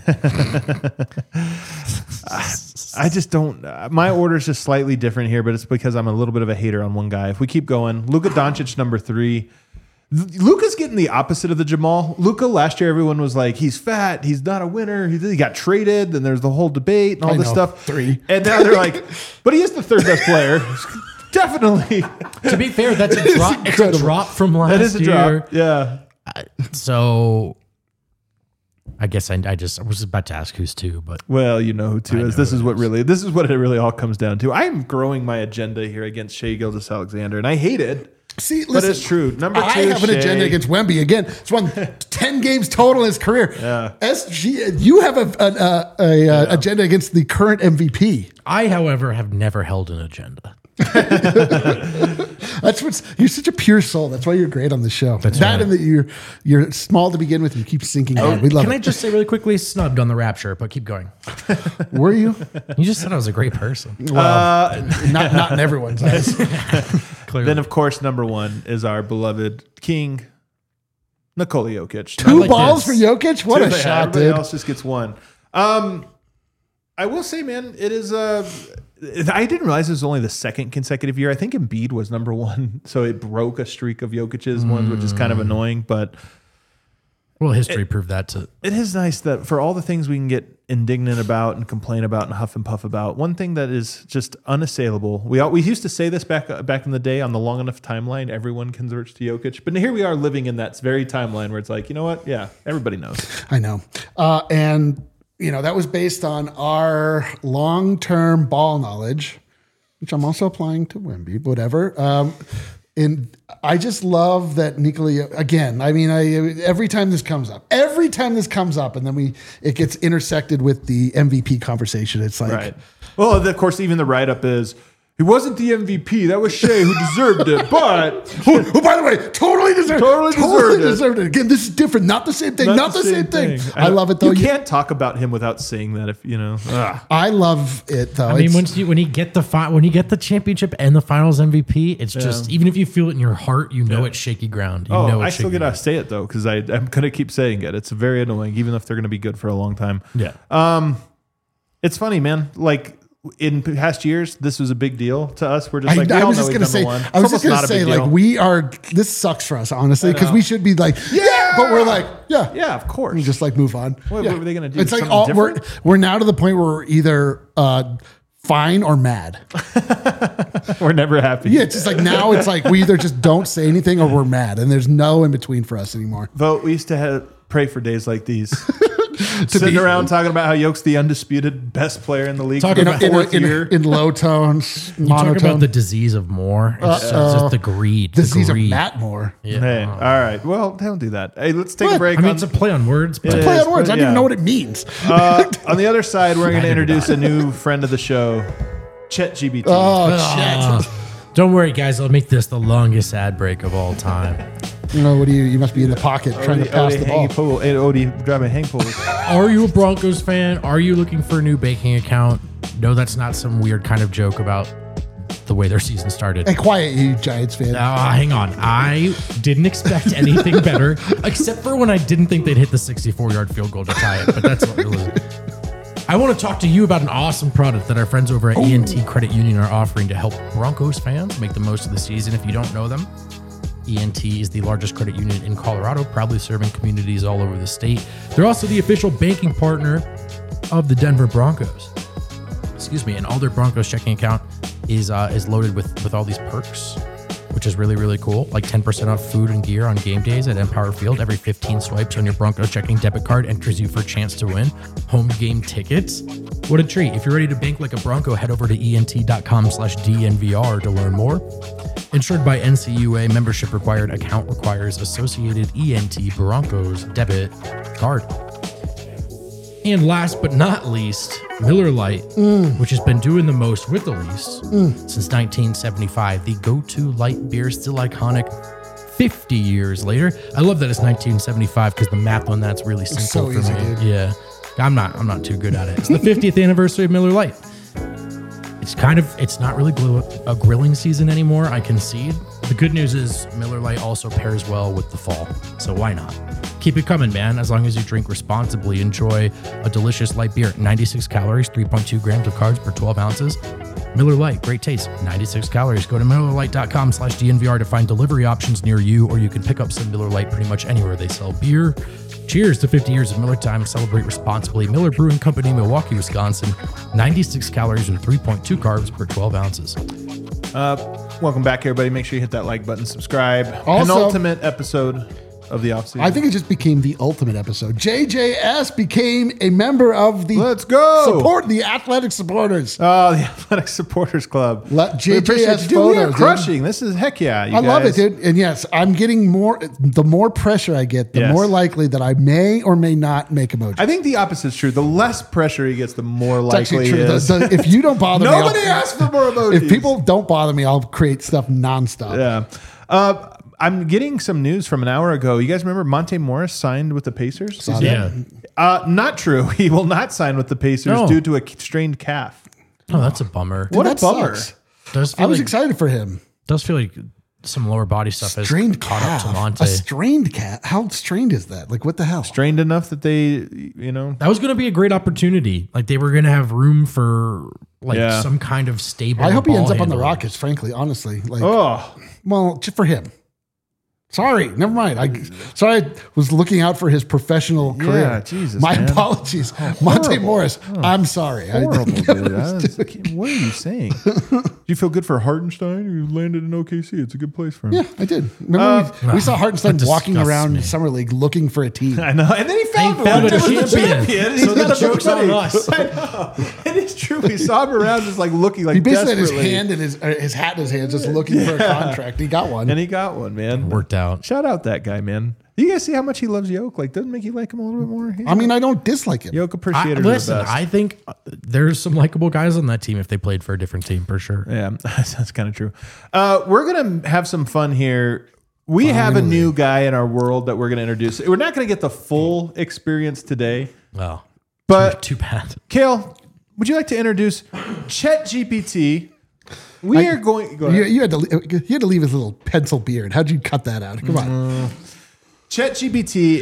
S2: I just don't. My order is just slightly different here, but it's because I'm a little bit of a hater on one guy. If we keep going, Luka Doncic, number 3. Luka's getting the opposite of the Jamal. Luka last year, everyone was like, he's fat, he's not a winner, he got traded, and there's the whole debate and all this stuff.
S3: 3.
S2: And now they're like, but he is the 3rd best player. Definitely.
S1: To be fair, that's a drop. It's a drop from last
S2: That is a
S1: year.
S2: drop. Yeah.
S1: So I guess I was about to ask who's 2, but
S2: Well, you know who 2 is.
S1: know
S2: This is
S1: who
S2: what it really all comes down to. I am growing my agenda here against Shai Gilgeous-Alexander, and I hate it.
S3: See,
S2: But
S3: listen,
S2: it's true. Number 2,
S3: I have an
S2: Shai.
S3: agenda against Wemby. Again, he's won 10 games total in his career.
S2: Yeah.
S3: You have an agenda against the current MVP.
S1: I, however, have never held an agenda.
S3: That's you're such a pure soul. That's why you're great on the show.
S1: That's
S3: that
S1: right.
S3: and that you're small to begin with. And you keep sinking in. We love
S1: Can I
S3: it.
S1: just say really quickly, snubbed on the Rapture, but keep going.
S3: Were you?
S1: You just said I was a great person.
S3: Not in everyone's eyes.
S1: Clearly.
S2: Then, of course, number 1 is our beloved king, Nikola Jokic.
S3: 2
S1: like
S3: balls
S1: this.
S3: for Jokic. What a
S2: Yeah,
S3: shot,
S2: everybody
S3: dude.
S2: else just gets 1. I will say, man, it is. I didn't realize it was only the 2nd consecutive year. I think Embiid was number 1, so it broke a streak of Jokic's ones, which is kind of annoying. But
S1: Well, history proved that to.
S2: it is nice that for all the things we can get indignant about and complain about and huff and puff about, one thing that is just unassailable. We used to say this back in the day on the long enough timeline, everyone converts to Jokic. But here we are living in that very timeline where it's like, you know what? Yeah, everybody knows.
S3: I know. And, that was based on our long-term ball knowledge, which I'm also applying to Wemby, whatever. And I just love that Nikola, again, I mean, every time this comes up, and then it gets intersected with the MVP conversation. It's like,
S2: Right. Well, of course, even the write-up is, he wasn't the MVP. That was Shai who deserved it. But
S3: who, by the way, totally deserved
S2: Totally
S3: deserved it. Again, this is different. Not the same thing. Not the same thing. I love it, though.
S2: You can't talk about him without saying that. If you know,
S3: I love it, though.
S1: I mean, when you get the championship and the Finals MVP, it's just even if you feel it in your heart, it's shaky ground. You know it's
S2: I still
S1: shaky
S2: gotta say it though because I'm gonna keep saying it. It's very annoying, even if they're gonna be good for a long time.
S1: Yeah.
S2: It's funny, man. Like in past years, this was a big deal to us. We're just like, we
S3: I
S2: all
S3: was
S2: know
S3: just
S2: he's
S3: gonna say,
S2: number one.
S3: I was
S2: It's
S3: just
S2: almost
S3: gonna
S2: not a
S3: say,
S2: big
S3: like,
S2: deal.
S3: this sucks for us, honestly, because we should be like, yeah, but we're like, yeah,
S2: Yeah, of course.
S3: we just like move on.
S2: What
S3: Yeah.
S2: were they gonna do?
S3: It's like
S2: Something
S3: we're
S2: different?
S3: now to the point where we're either fine or mad.
S2: We're never happy.
S3: Yeah, it's just like now it's like we either just don't say anything or we're mad, and there's no in between for us anymore.
S2: Vote. We used to pray for days like these. Sitting around talking about how Yoke's the undisputed best player in the league for
S1: Talking
S2: the
S1: about-
S2: fourth year.
S3: In low tones,
S1: You talk about
S3: monotone.
S1: the disease of more. It's just the greed.
S3: Disease
S1: the
S3: of
S1: greed.
S3: Matt Moore.
S1: Yeah.
S2: Hey, all right. Well, don't do that. Hey, let's take a
S3: What?
S2: break.
S1: I mean,
S2: on,
S1: it's a play on words, but
S2: It
S3: Play
S2: is,
S3: on words.
S2: but
S3: I don't even
S2: yeah.
S3: know what it means.
S2: on the other side, we're going to introduce a new friend of the show, ChatGPT.
S3: Oh shit!
S1: don't worry, guys. I'll make this the longest ad break of all time.
S3: You know what do you must be in the pocket trying to pass the ball.
S2: Odie driving hang pole.
S1: Are you a Broncos fan? Are you looking for a new banking account? No, that's not some weird kind of joke about the way their season started.
S3: Hey, quiet, you Giants fan.
S1: Hang on. I didn't expect anything better, except for when I didn't think they'd hit the 64-yard field goal to tie it. But that's what it was. I want to talk to you about an awesome product that our friends over at ENT Credit Union are offering to help Broncos fans make the most of the season. If you don't know them, ENT is the largest credit union in Colorado, proudly serving communities all over the state. They're also the official banking partner of the Denver Broncos. Excuse me, and all their Broncos checking account is loaded with all these perks, which is really, really cool. Like 10% off food and gear on game days at Empower Field. Every 15 swipes on your Broncos checking debit card enters you for a chance to win home game tickets. What a treat. If you're ready to bank like a Bronco, head over to ent.com/DNVR to learn more. Insured by NCUA, membership required, account requires associated ENT Broncos debit card. And last but not least, Miller Lite, which has been doing the most with the least since 1975. The go-to light beer, still iconic 50 years later. I love that it's 1975 because the math on that's really simple
S3: so
S1: for
S3: easy,
S1: me.
S3: dude.
S1: Yeah, I'm not too good at it. It's the 50th anniversary of Miller Lite. It's not really a grilling season anymore, I concede. The good news is Miller Lite also pairs well with the fall, so why not? Keep it coming, man. As long as you drink responsibly, enjoy a delicious light beer. 96 calories, 3.2 grams of carbs per 12 ounces. Miller Lite, great taste, 96 calories. Go to MillerLite.com/DNVR to find delivery options near you, or you can pick up some Miller Lite pretty much anywhere they sell beer. Cheers to 50 years of Miller Time. Celebrate responsibly. Miller Brewing Company, Milwaukee, Wisconsin. 96 calories and 3.2 carbs per 12 ounces.
S2: Welcome back, everybody. Make sure you hit that like button, subscribe.
S3: Also-
S2: Penultimate episode of the offseason.
S3: I think it just became the ultimate episode. JJS became a member of the
S2: Let's go.
S3: the athletic supporters.
S2: Oh, the Athletic Supporters Club.
S3: JJS
S2: We appreciate you. Dude, we are
S3: photos, dude.
S2: crushing. This is heck yeah. You
S3: I love it,
S2: guys.
S3: dude. And yes, I'm getting more. The more pressure I get, the
S2: Yes.
S3: more likely that I may or may not make emoji.
S2: I think the opposite's true. The less pressure he gets, the more
S3: It's
S2: likely
S3: actually
S2: he
S3: true.
S2: is.
S3: If you don't bother me,
S2: Nobody asked for more emojis.
S3: If people don't bother me, I'll create stuff nonstop.
S2: Yeah. I'm getting some news from an hour ago. You guys remember Monte Morris signed with the Pacers?
S3: Saw
S1: Yeah.
S2: Not true. He will not sign with the Pacers
S1: No.
S2: due to a strained calf.
S1: Oh, that's a bummer.
S3: Dude,
S2: What a
S3: that
S2: bummer.
S3: sucks.
S1: Does
S3: I
S1: feel
S3: was
S1: like,
S3: excited for him.
S1: does feel like some lower body stuff has
S3: Strained
S1: caught
S3: calf.
S1: up to Monte.
S3: A strained calf. How strained is that? Like, what the hell?
S2: Strained enough that they,
S1: That was going to be a great opportunity. Like they were going to have room for
S2: Yeah.
S1: some kind of stable.
S3: I hope he
S1: ball
S3: ends up on the
S1: handler.
S3: Rockets, frankly, honestly. Like,
S2: oh,
S3: well, just for him. Sorry, never mind. I was looking out for his professional career.
S2: Jesus,
S3: My
S2: man.
S3: apologies, Monte Morris. I'm sorry.
S2: horrible, dude. What are you saying? Do you feel good for Hartenstein? You landed in OKC. It's a good place for him.
S3: Yeah, I did. Remember we saw Hartenstein
S1: that
S3: walking
S1: disgusts
S3: around
S1: me.
S3: Summer League looking for a team.
S2: I know. And then he found,
S1: found
S2: one
S1: a
S2: that was the
S1: champion.
S2: He's
S1: So the
S2: got a
S1: joke's
S2: buddy.
S1: on us.
S2: I know. It is true. We saw him around just like looking like
S3: He basically had his
S2: desperately.
S3: hand in his hat in his hand, just looking for a contract. He got one.
S2: And he got one, man.
S1: Worked out.
S2: Shout out that guy, man. You guys see how much he loves Yoke? Like, doesn't make you like him a little bit more?
S3: I mean, I don't dislike him.
S2: Yoke appreciator.
S1: Listen,
S2: the best.
S1: I think there's some likable guys on that team if they played for a different team for sure.
S2: Yeah, that's kind of true. We're going to have some fun here. We have a new guy in our world that we're going to introduce. We're not going to get the full experience today,
S1: Well,
S2: but
S1: too bad.
S2: Kale, would you like to introduce ChatGPT? We are going. Go ahead.
S3: You had to leave his little pencil beard. How'd you cut that out? Come on.
S2: ChatGPT,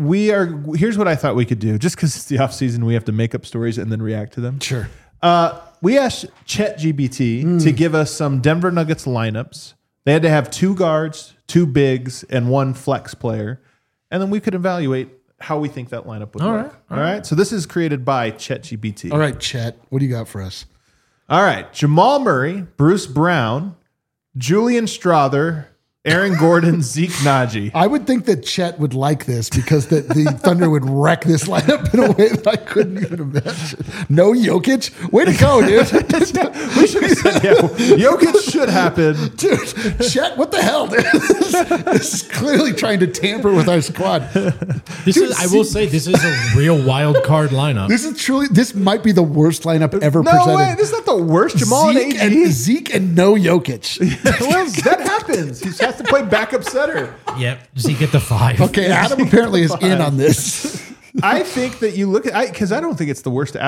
S2: here's what I thought we could do. Just because it's the off season, we have to make up stories and then react to them.
S3: Sure.
S2: we asked ChatGPT to give us some Denver Nuggets lineups. They had to have 2 guards, 2 bigs, and 1 flex player. And then we could evaluate how we think that lineup would work. All right. So this is created by ChatGPT.
S3: All right, Chet, what do you got for us?
S2: All right. Jamal Murray, Bruce Brown, Julian Strother, Aaron Gordon, Zeke Naji.
S3: I would think that Chet would like this because the Thunder would wreck this lineup in a way that I couldn't even imagine. No Jokic? Way to go, dude.
S2: We should have said, Jokic should happen.
S3: Dude, Chet, what the hell, dude? This is clearly trying to tamper with our squad.
S1: I will say, this is a real wild card lineup.
S3: This might be the worst lineup ever
S2: No
S3: presented.
S2: way. This is not the worst. Jamal
S3: Zeke and no Jokic.
S2: Well, that happens. He has to play backup center.
S1: Yep. Zeke at the 5.
S3: Okay, Adam apparently is in on this.
S2: I think that you look at, because I don't think it's the worst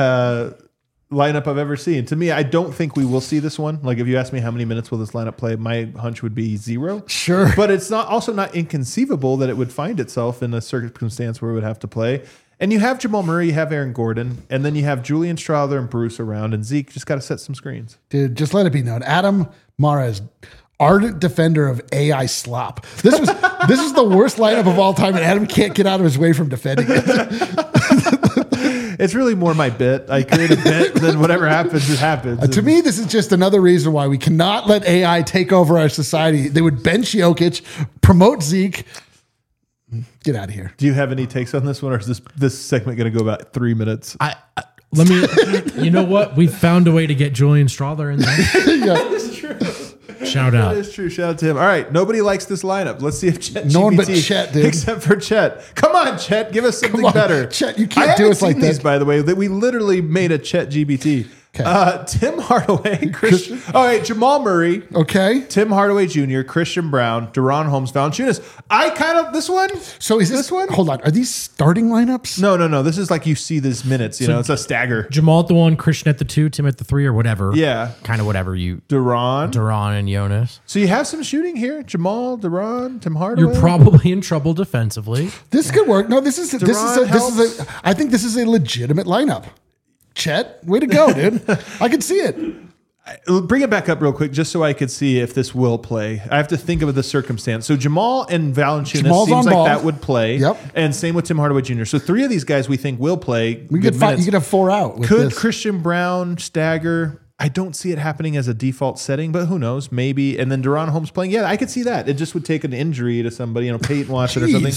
S2: lineup I've ever seen. To me, I don't think we will see this one. Like, if you ask me how many minutes will this lineup play, my hunch would be 0.
S3: Sure.
S2: But it's also not inconceivable that it would find itself in a circumstance where it would have to play. And you have Jamal Murray, you have Aaron Gordon, and then you have Julian Strother and Bruce around, and Zeke just got to set some screens.
S3: Dude, just let it be known. Adam Mares, ardent defender of AI slop. This is the worst lineup of all time, and Adam can't get out of his way from defending it.
S2: It's really more my bit. I create a bit, then whatever happens, it happens.
S3: To me, this is just another reason why we cannot let AI take over our society. They would bench Jokic, promote Zeke. Get out of here.
S2: Do you have any takes on this one, or is this segment going to go about 3 minutes?
S1: Let me. You know what? We found a way to get Julian Strother in there.
S2: That is true.
S1: Shout out.
S2: That is true. Shout out to him. All right. Nobody likes this lineup. Let's see if Chet.
S3: No one but
S2: GPT,
S3: Chet, dude.
S2: Except for Chet. Come on, Chet. Give us something better.
S3: Chet, you can't do us like
S2: these,
S3: that.
S2: by the way, that we literally made a Chet GBT.
S3: Okay.
S2: Tim Hardaway, Christian. All right, Jamal Murray.
S3: Okay.
S2: Tim Hardaway Jr., Christian Brown, Deron Holmes, Valanciunas. This one?
S3: So is this one? Hold on. Are these starting lineups?
S2: No. This is like you see these minutes. It's a stagger.
S1: Jamal at the 1, Christian at the 2, Tim at the 3, or whatever.
S2: Yeah.
S1: Kind of whatever you.
S2: Deron
S1: and Jonas.
S2: So you have some shooting here. Jamal, Deron, Tim Hardaway.
S1: You're probably in trouble defensively.
S3: This could work. No, this is I think this is a legitimate lineup. Chet, way to go, dude. I can see it.
S2: Bring it back up real quick just so I could see if this will play. I have to think of the circumstance. So Jamal and Valanciunas seems like that would play.
S3: Yep.
S2: And same with Tim Hardaway Jr. So 3 of these guys we think will play.
S3: You could have 4 out. With
S2: Could
S3: this.
S2: Christian Brown stagger? I don't see it happening as a default setting, but who knows? Maybe. And then Deron Holmes playing. Yeah, I could see that. It just would take an injury to somebody, Peyton Watson or something.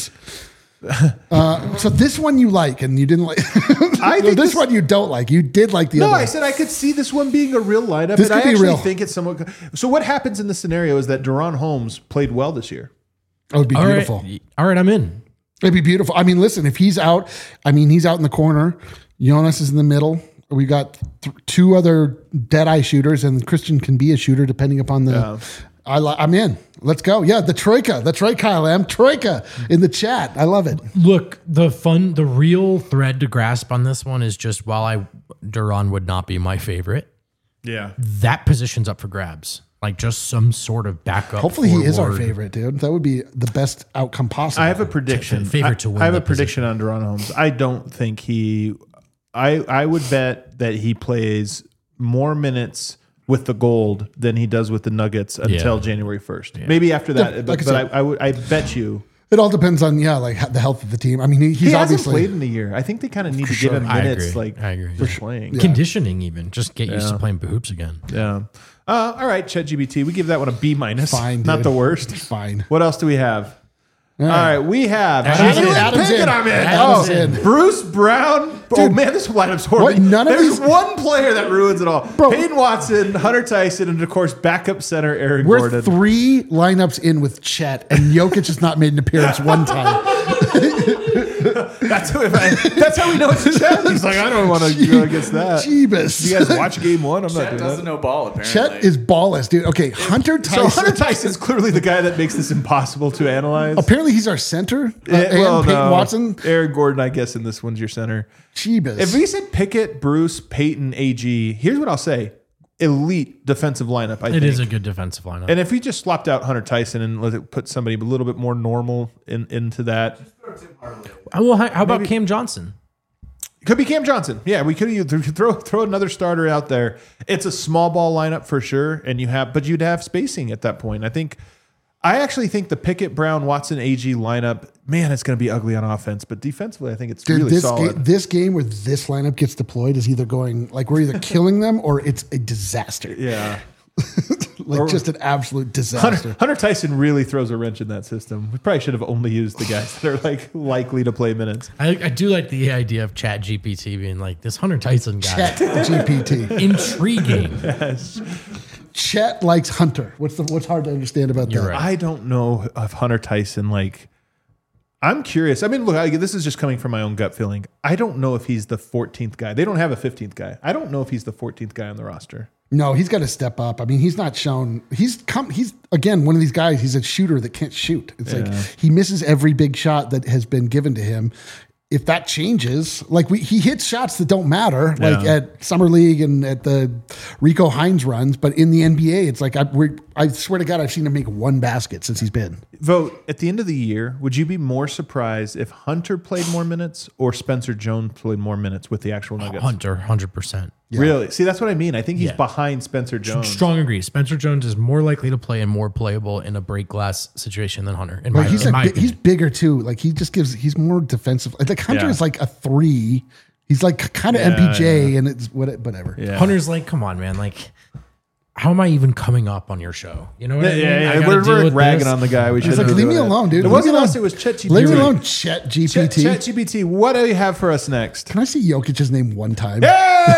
S3: So this one you like and you didn't like. I think this one you don't like. You did like the other one.
S2: No, I said I could see this one being a real lineup.
S3: This
S2: and
S3: could
S2: I
S3: be
S2: actually
S3: real.
S2: think it's somewhat. So what happens in this scenario is that Deron Holmes played well this year.
S3: It would be
S1: All
S3: beautiful.
S1: right. All right, I'm in.
S3: It'd be beautiful. I mean, listen, if he's out, he's out in the corner. Jonas is in the middle. We got 2 other dead-eye shooters, and Christian can be a shooter depending upon the.
S2: Yeah.
S3: I'm in. Let's go. Yeah, the Troika. That's right, Kyle M. Troika in the chat. I love it.
S1: Look, the real thread to grasp on this one is just while Duran would not be my favorite,
S2: Yeah.
S1: that position's up for grabs. Like just some sort of backup.
S3: Hopefully he is our
S1: forward.
S3: favorite, dude. That would be the best outcome possible.
S2: I have a prediction.
S1: Favorite to win
S2: I have a
S1: that
S2: prediction on Deron Holmes. I don't think he. I would bet that he plays more minutes with the gold than he does with the Nuggets until January 1st. Yeah. Maybe after that,
S3: Yeah,
S2: but I bet you.
S3: It all depends on the health of the team. I mean,
S2: He
S3: he's
S2: hasn't
S3: obviously
S2: played in a year. I think they kind of need to give him
S1: I
S2: minutes.
S1: agree. I agree.
S2: For playing.
S1: Conditioning, even just get used to playing hoops again.
S2: Yeah. All right, ChatGPT. We give that one a B-.
S3: Fine,
S2: Not
S3: dude.
S2: the worst.
S3: Fine.
S2: What else do we have? All right, we have
S3: Adam's in.
S2: Jalen
S3: Adam's
S2: Pickett.
S3: in.
S2: I'm in.
S3: Adam's in.
S2: Bruce Brown. Oh man, this lineup's horrible.
S3: What? None of
S2: There's
S3: these-
S2: one player that ruins it all.
S3: Bro.
S2: Peyton Watson, Hunter Tyson, and of course backup center Aaron
S3: We're
S2: Gordon.
S3: 3 lineups in with Chet, and Jokic has not made an appearance one time.
S2: That's how we know it's Chet. He's like, I don't want to go against that.
S3: Jeebus.
S2: You guys watch game 1? I'm not
S5: Chet
S2: doing
S5: doesn't
S2: that.
S5: know ball, apparently.
S3: Chet is ballless, dude. Okay, Hunter Tyson.
S2: So Hunter Tyson's clearly the guy that makes this impossible to analyze.
S3: Apparently, he's our center. And
S2: Well,
S3: Peyton
S2: no.
S3: Watson.
S2: Aaron Gordon, I guess, in this one's your center.
S3: Jeebus.
S2: If we said Pickett, Bruce, Peyton, AG, here's what I'll say. Elite defensive lineup, I think.
S1: It is a good defensive lineup.
S2: And if we just swapped out Hunter Tyson and let it put somebody a little bit more normal into that.
S1: Well, how about Cam Johnson?
S2: Could be Cam Johnson. Yeah, we could throw another starter out there. It's a small ball lineup for sure, but you'd have spacing at that point. I actually think the Pickett, Brown, Watson, AG lineup, man, it's going to be ugly on offense, but defensively, I think it's really solid.
S3: This game where this lineup gets deployed is either going like we're either killing them or it's a disaster.
S2: Yeah.
S3: Just an absolute disaster.
S2: Hunter Tyson really throws a wrench in that system. We probably should have only used the guys that are like likely to play minutes.
S1: I do like the idea of Chat GPT being like this Hunter Tyson guy.
S3: Chat GPT.
S1: Intriguing.
S2: Yes.
S3: Chat likes Hunter. What's hard to understand about
S1: You're
S3: that?
S1: right.
S2: I don't know if Hunter Tyson, I'm curious. I mean, look, this is just coming from my own gut feeling. I don't know if he's the 14th guy. They don't have a 15th guy. I don't know if he's the 14th guy on the roster.
S3: No, he's got to step up. I mean, he's not shown. He's again one of these guys. He's a shooter that can't shoot. It's like he misses every big shot that has been given to him. If that changes, he hits shots that don't matter, like at Summer League and at the Rico Hines runs, but in the NBA, it's like I swear to God, I've seen him make one basket since he's been.
S2: Vote at the end of the year. Would you be more surprised if Hunter played more minutes or Spencer Jones played more minutes with the actual Nuggets?
S1: Hunter, 100%.
S3: Yeah.
S2: Really? See, that's what I mean. I think he's behind Spencer Jones.
S1: Strong agree. Spencer Jones is more likely to play and more playable in a break glass situation than Hunter.
S3: He's bigger too. Like he's more defensive. Like Hunter is like a 3. He's like kind of MPJ and it's whatever.
S2: Yeah.
S1: Hunter's like, come on, man. Like, how am I even coming up on your show? You know what I mean?
S2: Yeah. We're ragging on the guy.
S3: He's like, leave me alone, dude.
S2: It wasn't us. It was Chet GPT.
S3: Leave me alone, Chet GPT.
S2: Chet GPT. What do you have for us next?
S3: Can I see Jokic's name one time?
S2: Hey!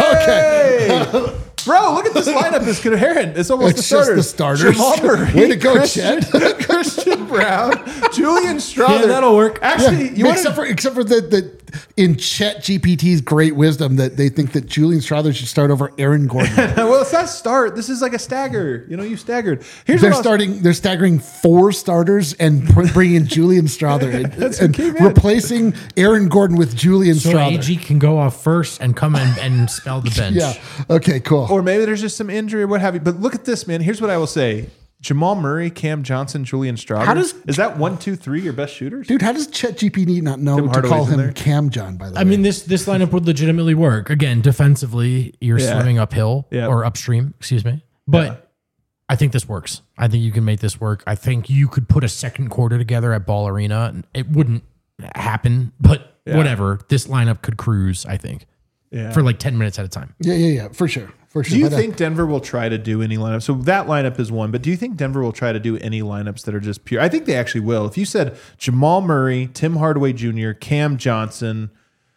S3: Okay.
S2: Bro, look at this lineup. It's coherent. It's almost
S3: It's
S2: the starters.
S3: just the starters.
S2: Jamal Murray,
S3: Way to go, Chet.
S2: Christian Brown, Julian Strother.
S1: Yeah, that'll work.
S2: Actually,
S3: except for the in Chet GPT's great wisdom that they think that Julian Strother should start over Aaron Gordon.
S2: well, it's not start. This is like a stagger. You staggered.
S3: They're staggering 4 starters and bringing Julian Strother in, and replacing Aaron Gordon with Julian
S1: So
S3: Strother.
S1: AG can go off first and come in and spell the bench.
S3: Yeah. Okay. Cool.
S2: Or maybe there's just some injury or what have you. But look at this, man. Here's what I will say. Jamal Murray, Cam Johnson, Julian Strother. Is that 1, 2, 3 your best shooters?
S3: Dude, how does Chet GPT not know
S2: Tim
S3: to
S2: Hardaway's
S3: call
S2: in
S3: him
S2: there?
S3: Cam John, by the way?
S1: I mean, this lineup would legitimately work. Again, defensively, you're swimming uphill or upstream, excuse me. But I think this works. I think you can make this work. I think you could put a second quarter together at Ball Arena. It wouldn't happen, but whatever. This lineup could cruise, I think, for like 10 minutes at a time.
S3: Yeah, for sure.
S2: Do you think Denver will try to do any lineup? So that lineup is one, but do you think Denver will try to do any lineups that are just pure? I think they actually will. If you said Jamal Murray, Tim Hardaway Jr., Cam Johnson,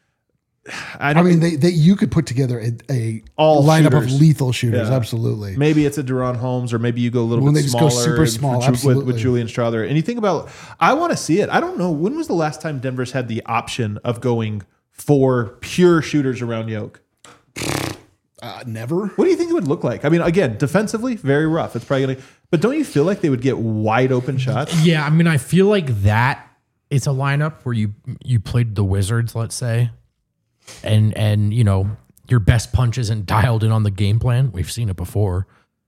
S3: you could put together a
S2: all
S3: lineup
S2: shooters.
S3: of lethal shooters.
S2: Yeah.
S3: Absolutely.
S2: Maybe it's a De'Ron Holmes, or maybe you go a little
S3: When
S2: bit
S3: they just
S2: smaller.
S3: go super small, absolutely.
S2: with Julian Strother. And you think about, I want to see it. I don't know. When was the last time Denver's had the option of going 4 pure shooters around Yoke?
S3: Never.
S2: What do you think it would look like? I mean, again, defensively, very rough. It's probably going to, but don't you feel like they would get wide open shots?
S1: Yeah, I mean, I feel like that it's a lineup where you played the Wizards, let's say, and your best punch isn't dialed in on the game plan. We've seen it before.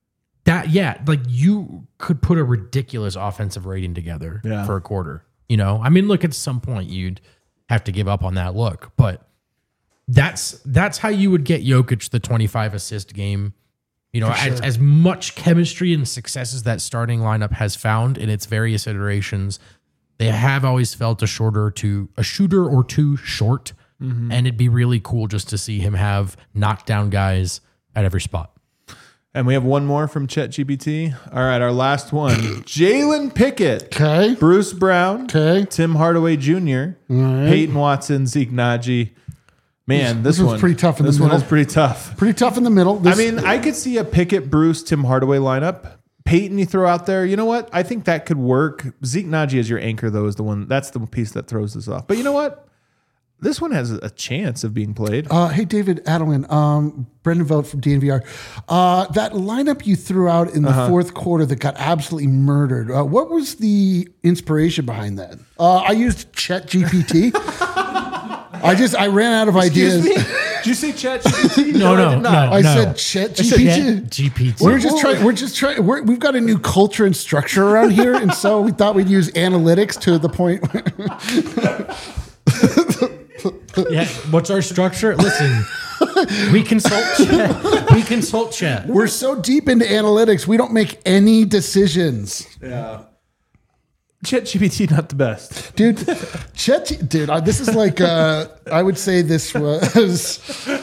S1: Like you could put a ridiculous offensive rating together for a quarter. I mean, look, at some point you'd have to give up on that look, but that's how you would get Jokic the 25 assist game. As much chemistry and success as that starting lineup has found in its various iterations, they have always felt a shooter or two short. Mm-hmm. And it'd be really cool just to see him have knockdown guys at every spot.
S2: And we have one more from ChatGPT. All right, our last one. Jalen Pickett.
S3: Okay.
S2: Bruce Brown.
S3: Okay.
S2: Tim Hardaway Jr.
S3: Right.
S2: Peyton Watson. Zeke Naji. Man, this
S3: was pretty tough in the middle.
S2: This one is pretty tough.
S3: Pretty tough in the middle.
S2: I could see a Pickett, Bruce, Tim Hardaway lineup. Peyton you throw out there. You know what? I think that could work. Zeke Naji as your anchor, though, is the one. That's the piece that throws this off. But you know what? This one has a chance of being played.
S3: Hey, David Adelman, Brendan Vogt from DNVR. That lineup you threw out in the fourth quarter that got absolutely murdered. What was the inspiration behind that? I used ChatGPT. I ran out of ideas.
S2: Excuse me? Did you say ChatGPT?
S1: No.
S3: I said ChatGPT.
S1: GPT.
S3: We're just trying. We've got a new culture and structure around here, and so we thought we'd use analytics to the point.
S1: Yeah. What's our structure? Listen, we consult Chet. We consult Chet.
S3: We're so deep into analytics, we don't make any decisions.
S2: Yeah. ChatGPT not the best.
S3: Dude, this is like, I would say this was...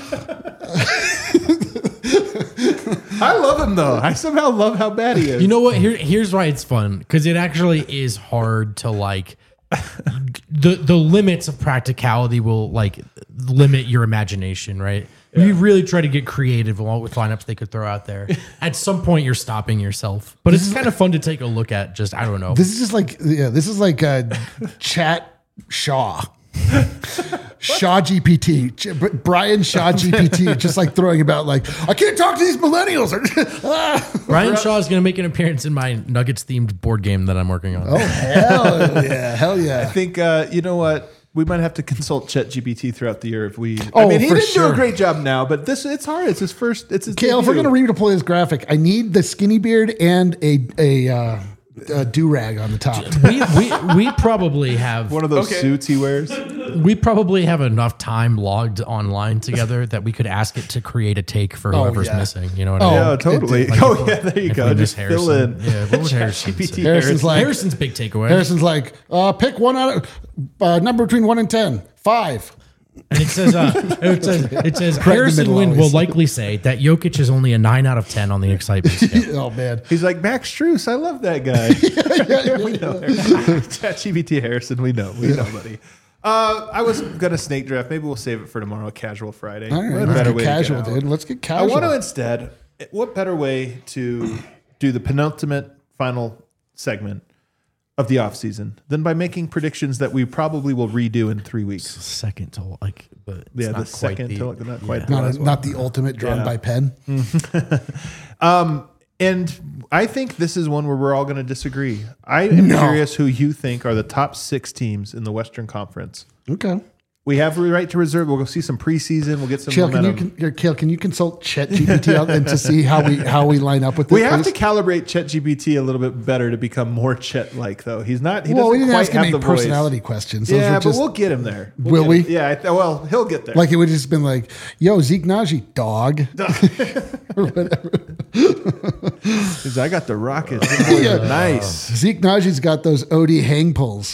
S2: I love him though. I somehow love how bad he is.
S1: You know what? Here's why it's fun, because it actually is hard to like the limits of practicality will like limit your imagination, right? Yeah. You really try to get creative with lineups they could throw out there. At some point, you're stopping yourself, but it's kind of fun to take a look at. Just I don't know.
S3: This is just like this is like Chat Shaw. Shaw GPT, Brian Shaw GPT, just like throwing about like, I can't talk to these millennials.
S1: Brian Shaw is going to make an appearance in my Nuggets themed board game that I'm working on.
S3: Oh, hell yeah.
S2: I think, you know what? We might have to consult ChatGPT throughout the year if we.
S3: Oh,
S2: I mean, he
S3: for
S2: didn't do
S3: sure.
S2: a great job now, but it's hard. It's his first. It's his.
S3: Kale, if we're going to redeploy this graphic, I need the skinny beard and a do-rag on the top.
S1: We probably have
S2: one of those suits he wears.
S1: We probably have enough time logged online together that we could ask it to create a take for whoever's missing. You know what I mean?
S2: Yeah, totally.
S1: Like
S2: there you go. Just fill in.
S1: Yeah, what would Harrison say?
S3: Harrison's
S1: big takeaway.
S3: Harrison's like, pick one out of number between 1 and 10. 5.
S1: And it says Harrison Wind will likely say that Jokic is only a 9 out of 10 on the excitement scale.
S3: Oh man,
S2: he's like Max Strus. I love that guy. We know ChatGPT Harrison. We know, buddy. I was gonna snake draft. Maybe we'll save it for tomorrow. Casual Friday.
S3: All right, let's get casual, dude. Let's get casual.
S2: I want to instead. What better way to do the penultimate final segment of the off season than by making predictions that we probably will redo in 3 weeks?
S1: Second to like, but
S2: yeah, the second to like, not quite.
S3: Not the ultimate drawn by pen.
S2: And I think this is one where we're all going to disagree. I am curious who you think are the top 6 teams in the Western Conference.
S3: Okay.
S2: We have the right to reserve. We'll go see some preseason. We'll get some momentum.
S3: Kale, can you consult ChatGPT out and to see how we line up with this?
S2: We have to calibrate ChatGPT a little bit better to become more Chet-like, though. He's not. He doesn't
S3: we didn't
S2: quite
S3: ask him
S2: have the
S3: any personality questions. Those
S2: but we'll get him there.
S3: Will we?
S2: Yeah. Well, he'll get there.
S3: Like it would have just been like, "Yo, Zeke Naji, dog," or whatever.
S2: I got the Rockets. Nice.
S3: Zeke Naji's got those OD hang pulls.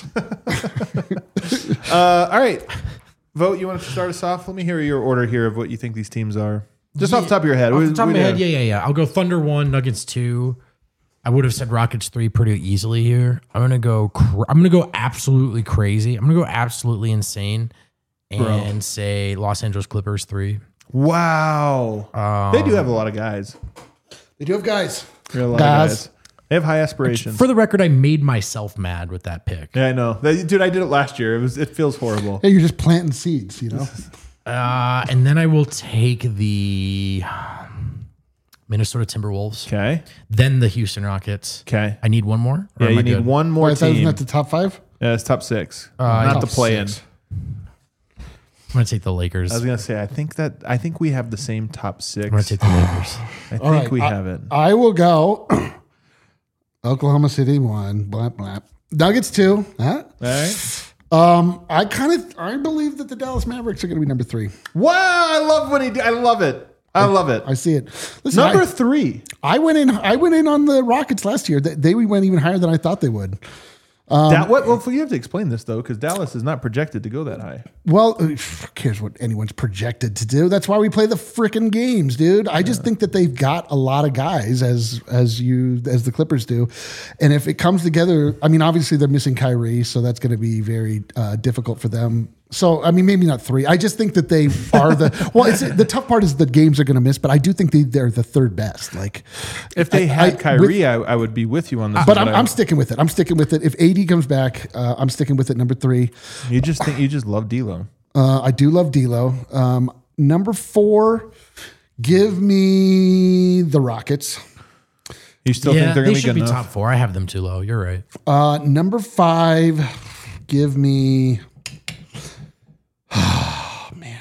S2: All right. Vote, you want to start us off? Let me hear your order here of what you think these teams are. Just off the top of your head.
S1: Off the top of my head, yeah. I'll go Thunder 1, Nuggets 2. I would have said Rockets 3 pretty easily here. I'm gonna go absolutely crazy. I'm gonna go absolutely insane and say Los Angeles Clippers 3.
S2: Wow. They do have a lot of guys.
S3: They do have guys.
S2: They have a lot of guys. They have high aspirations.
S1: For the record, I made myself mad with that pick.
S2: Yeah, I know. Dude, I did it last year. It feels horrible.
S3: Yeah, you're just planting seeds, you know?
S1: And then I will take the Minnesota Timberwolves.
S2: Okay.
S1: Then the Houston Rockets.
S2: Okay.
S1: I need one more?
S2: Yeah, you need one more team.
S3: Isn't that the top 5?
S2: Yeah, it's top 6. Not the play-in.
S1: I'm going to take the Lakers.
S2: I was going to say, I think we have the same top 6.
S1: I'm going to take the Lakers.
S2: I think we have it.
S3: I will go Oklahoma City 1, blah, blah. Nuggets 2. Huh?
S2: All right.
S3: I believe that the Dallas Mavericks are going to be number 3.
S2: Wow, I love what he did. I love it. I see it.
S3: Listen,
S2: number 3.
S3: I went in on the Rockets last year. They went even higher than I thought they would.
S2: Well, you have to explain this though, because Dallas is not projected to go that high.
S3: Well, who cares what anyone's projected to do? That's why we play the freaking games, dude. I just think that they've got a lot of guys as the Clippers do, and if it comes together, I mean, obviously they're missing Kyrie, so that's going to be very difficult for them. So, I mean, maybe not 3. I just think that they are the tough part is the games are going to miss, but I do think they're the third best. Like,
S2: if they had Kyrie, I would be with you on this.
S3: But I'm sticking with it. I'm sticking with it. If AD comes back, I'm sticking with it. Number 3.
S2: You just love D'Lo.
S3: I do love D'Lo. Number 4, give me the Rockets.
S2: You still think they're going to be good enough?
S1: They should be top 4. I have them too low. You're right.
S3: Number 5, give me. Oh, man.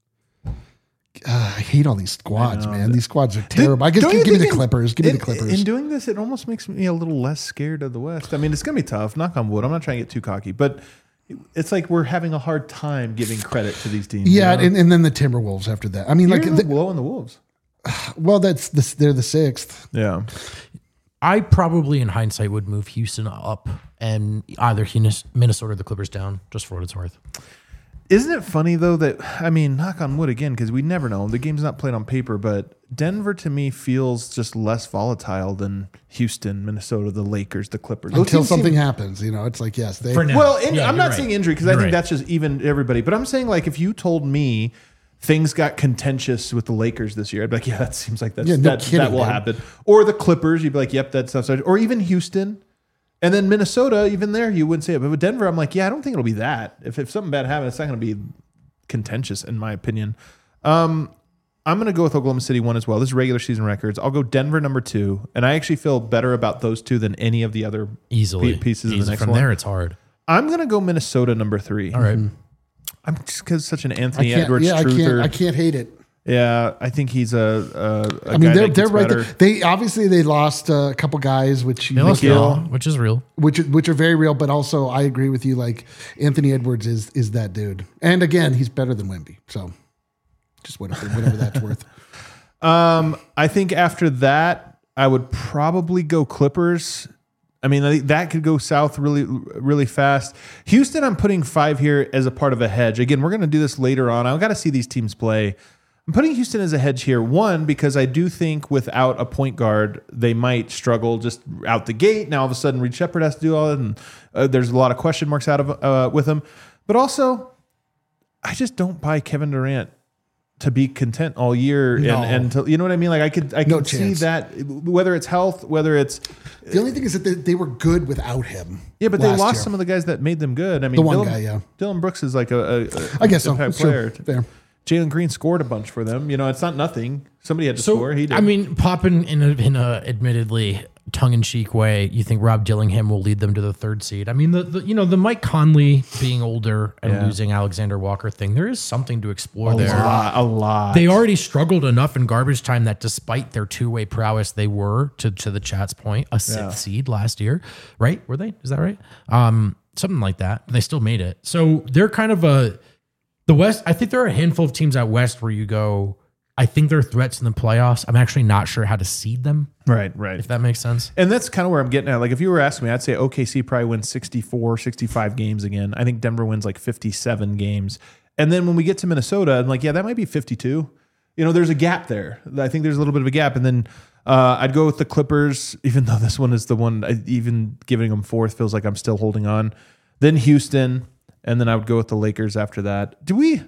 S3: I hate all these squads, man. These squads are terrible. I guess give me the Clippers. Give me the Clippers.
S2: In doing this, it almost makes me a little less scared of the West. I mean, it's going to be tough. Knock on wood. I'm not trying to get too cocky. But it's like we're having a hard time giving credit to these teams.
S3: Yeah,
S2: you know?
S3: and then the Timberwolves after that. I mean,
S2: You're
S3: like,
S2: blowing the Wolves.
S3: well, they're the 6th.
S2: Yeah.
S1: I probably, in hindsight, would move Houston up and either Minnesota or the Clippers down, just for what it's worth.
S2: Isn't it funny, though, that, I mean, knock on wood again, because we never know. The game's not played on paper, but Denver, to me, feels just less volatile than Houston, Minnesota, the Lakers, the Clippers. Those
S3: Until
S2: teams
S3: something
S2: seem-
S3: happens, it's like, yes, they.
S1: For now.
S2: Well,
S1: Yeah,
S2: I'm
S1: you're
S2: not
S1: right.
S2: saying injury, because I
S1: You're
S2: think
S1: right.
S2: that's just even everybody. But I'm saying, like, if you told me things got contentious with the Lakers this year, I'd be like, yeah, that seems like
S3: Yeah, no kidding,
S2: that will
S3: man.
S2: happen. Or the Clippers, you'd be like, yep, that stuff's. Or even Houston. And then Minnesota, even there, you wouldn't say it. But with Denver, I'm like, yeah, I don't think it'll be that. If something bad happens, it's not going to be contentious, in my opinion. I'm going to go with Oklahoma City 1 as well. This is regular season records. I'll go Denver number 2. And I actually feel better about those 2 than any of the other
S1: Easily.
S2: pieces of the next
S1: From
S2: one.
S1: there, it's hard.
S2: I'm going to go Minnesota number 3.
S1: All right.
S2: I'm just because such an
S3: I
S2: Anthony
S3: can't,
S2: Edwards
S3: yeah,
S2: truther.
S3: I can't hate it.
S2: Yeah, I think he's a
S3: I mean,
S2: guy
S3: they're
S2: that gets
S3: right
S2: better.
S3: there. They obviously they lost a couple guys, which
S1: They lost
S2: Gill.
S1: Gill, which is real.
S3: which are very real. But also, I agree with you. Like Anthony Edwards is that dude, and again, he's better than Wemby. So, just whatever that's worth.
S2: I think after that, I would probably go Clippers. I mean, I think that could go south really, really fast. Houston, I'm putting 5 here as a part of a hedge. Again, we're going to do this later on. I've got to see these teams play. I'm putting Houston as a hedge here. 1, because I do think without a point guard, they might struggle just out the gate. Now, all of a sudden, Reed Shepherd has to do all that, and there's a lot of question marks out of with him. But also, I just don't buy Kevin Durant to be content all year,
S3: No.
S2: and to, you know what I mean. Like I could
S3: No
S2: see
S3: chance.
S2: that, whether it's health, whether it's
S3: The only thing is that they were good without him.
S2: yeah, but they
S3: last
S2: lost
S3: year.
S2: some of the guys that made them good. I mean,
S3: The one
S2: Dylan,
S3: guy, yeah.
S2: Dylan Brooks is like a
S3: I guess so.
S2: impact
S3: Sure.
S2: player.
S3: Fair.
S2: Jalen Green scored a bunch for them. You know, it's not nothing. Somebody had to score. He did.
S1: I mean, popping in a admittedly tongue-in-cheek way, you think Rob Dillingham will lead them to the 3rd seed. I mean, the Mike Conley being older and
S2: Yeah.
S1: losing Alexander Walker thing, there is something to explore there.
S2: a lot.
S1: They already struggled enough in garbage time that despite their two-way prowess, they were, to the chat's point, a 6th seed last year, right? Were they? Is that right? Something like that. They still made it. So they're kind of the West. I think there are a handful of teams out West where you go, I think they're threats in the playoffs. I'm actually not sure how to seed them,
S2: right.
S1: if that makes sense.
S2: And that's kind of where I'm getting at. Like, if you were asking me, I'd say OKC probably wins 64, 65 games again. I think Denver wins like 57 games. And then when we get to Minnesota, I'm like, yeah, that might be 52. You know, there's a gap there. I think there's a little bit of a gap. And then I'd go with the Clippers, even though this one is the one, even giving them 4th feels like I'm still holding on. Then Houston. And then I would go with the Lakers after that.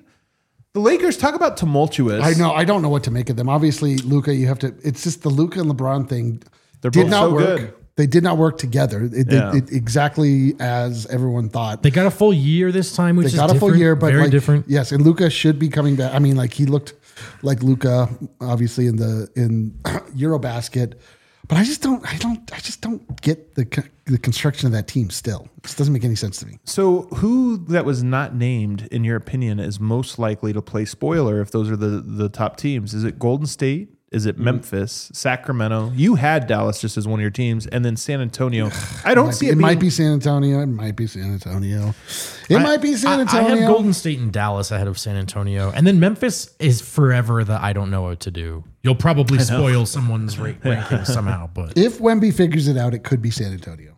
S2: The Lakers, talk about tumultuous.
S3: I know. I don't know what to make of them. Obviously, Luka, you have to. It's just the Luka and LeBron thing.
S2: They're
S3: did
S2: both
S3: not
S2: so
S3: work.
S2: good.
S3: They did not work together.
S2: Yeah.
S3: It exactly as everyone thought.
S1: They got a full year this time, which
S3: They
S1: is
S3: got a full
S1: different,
S3: year, but
S1: very
S3: like,
S1: different.
S3: Yes, and Luka should be coming back. I mean, like he looked like Luka, obviously in Eurobasket. But I just don't get the construction of that team. Still, it just doesn't make any sense to me.
S2: So who that was not named, in your opinion, is most likely to play spoiler if those are the top teams? Is it Golden State? Is it Memphis, Sacramento? You had Dallas just as one of your teams, and then San Antonio. I don't see it.
S3: It
S2: being,
S3: might be San Antonio. It might be San Antonio. It might be San
S1: I
S3: Antonio.
S1: have Golden State and Dallas ahead of San Antonio. And then Memphis is forever the I don't know what to do. You'll probably spoil someone's ranking somehow. But
S3: If Wemby figures it out, it could be San Antonio.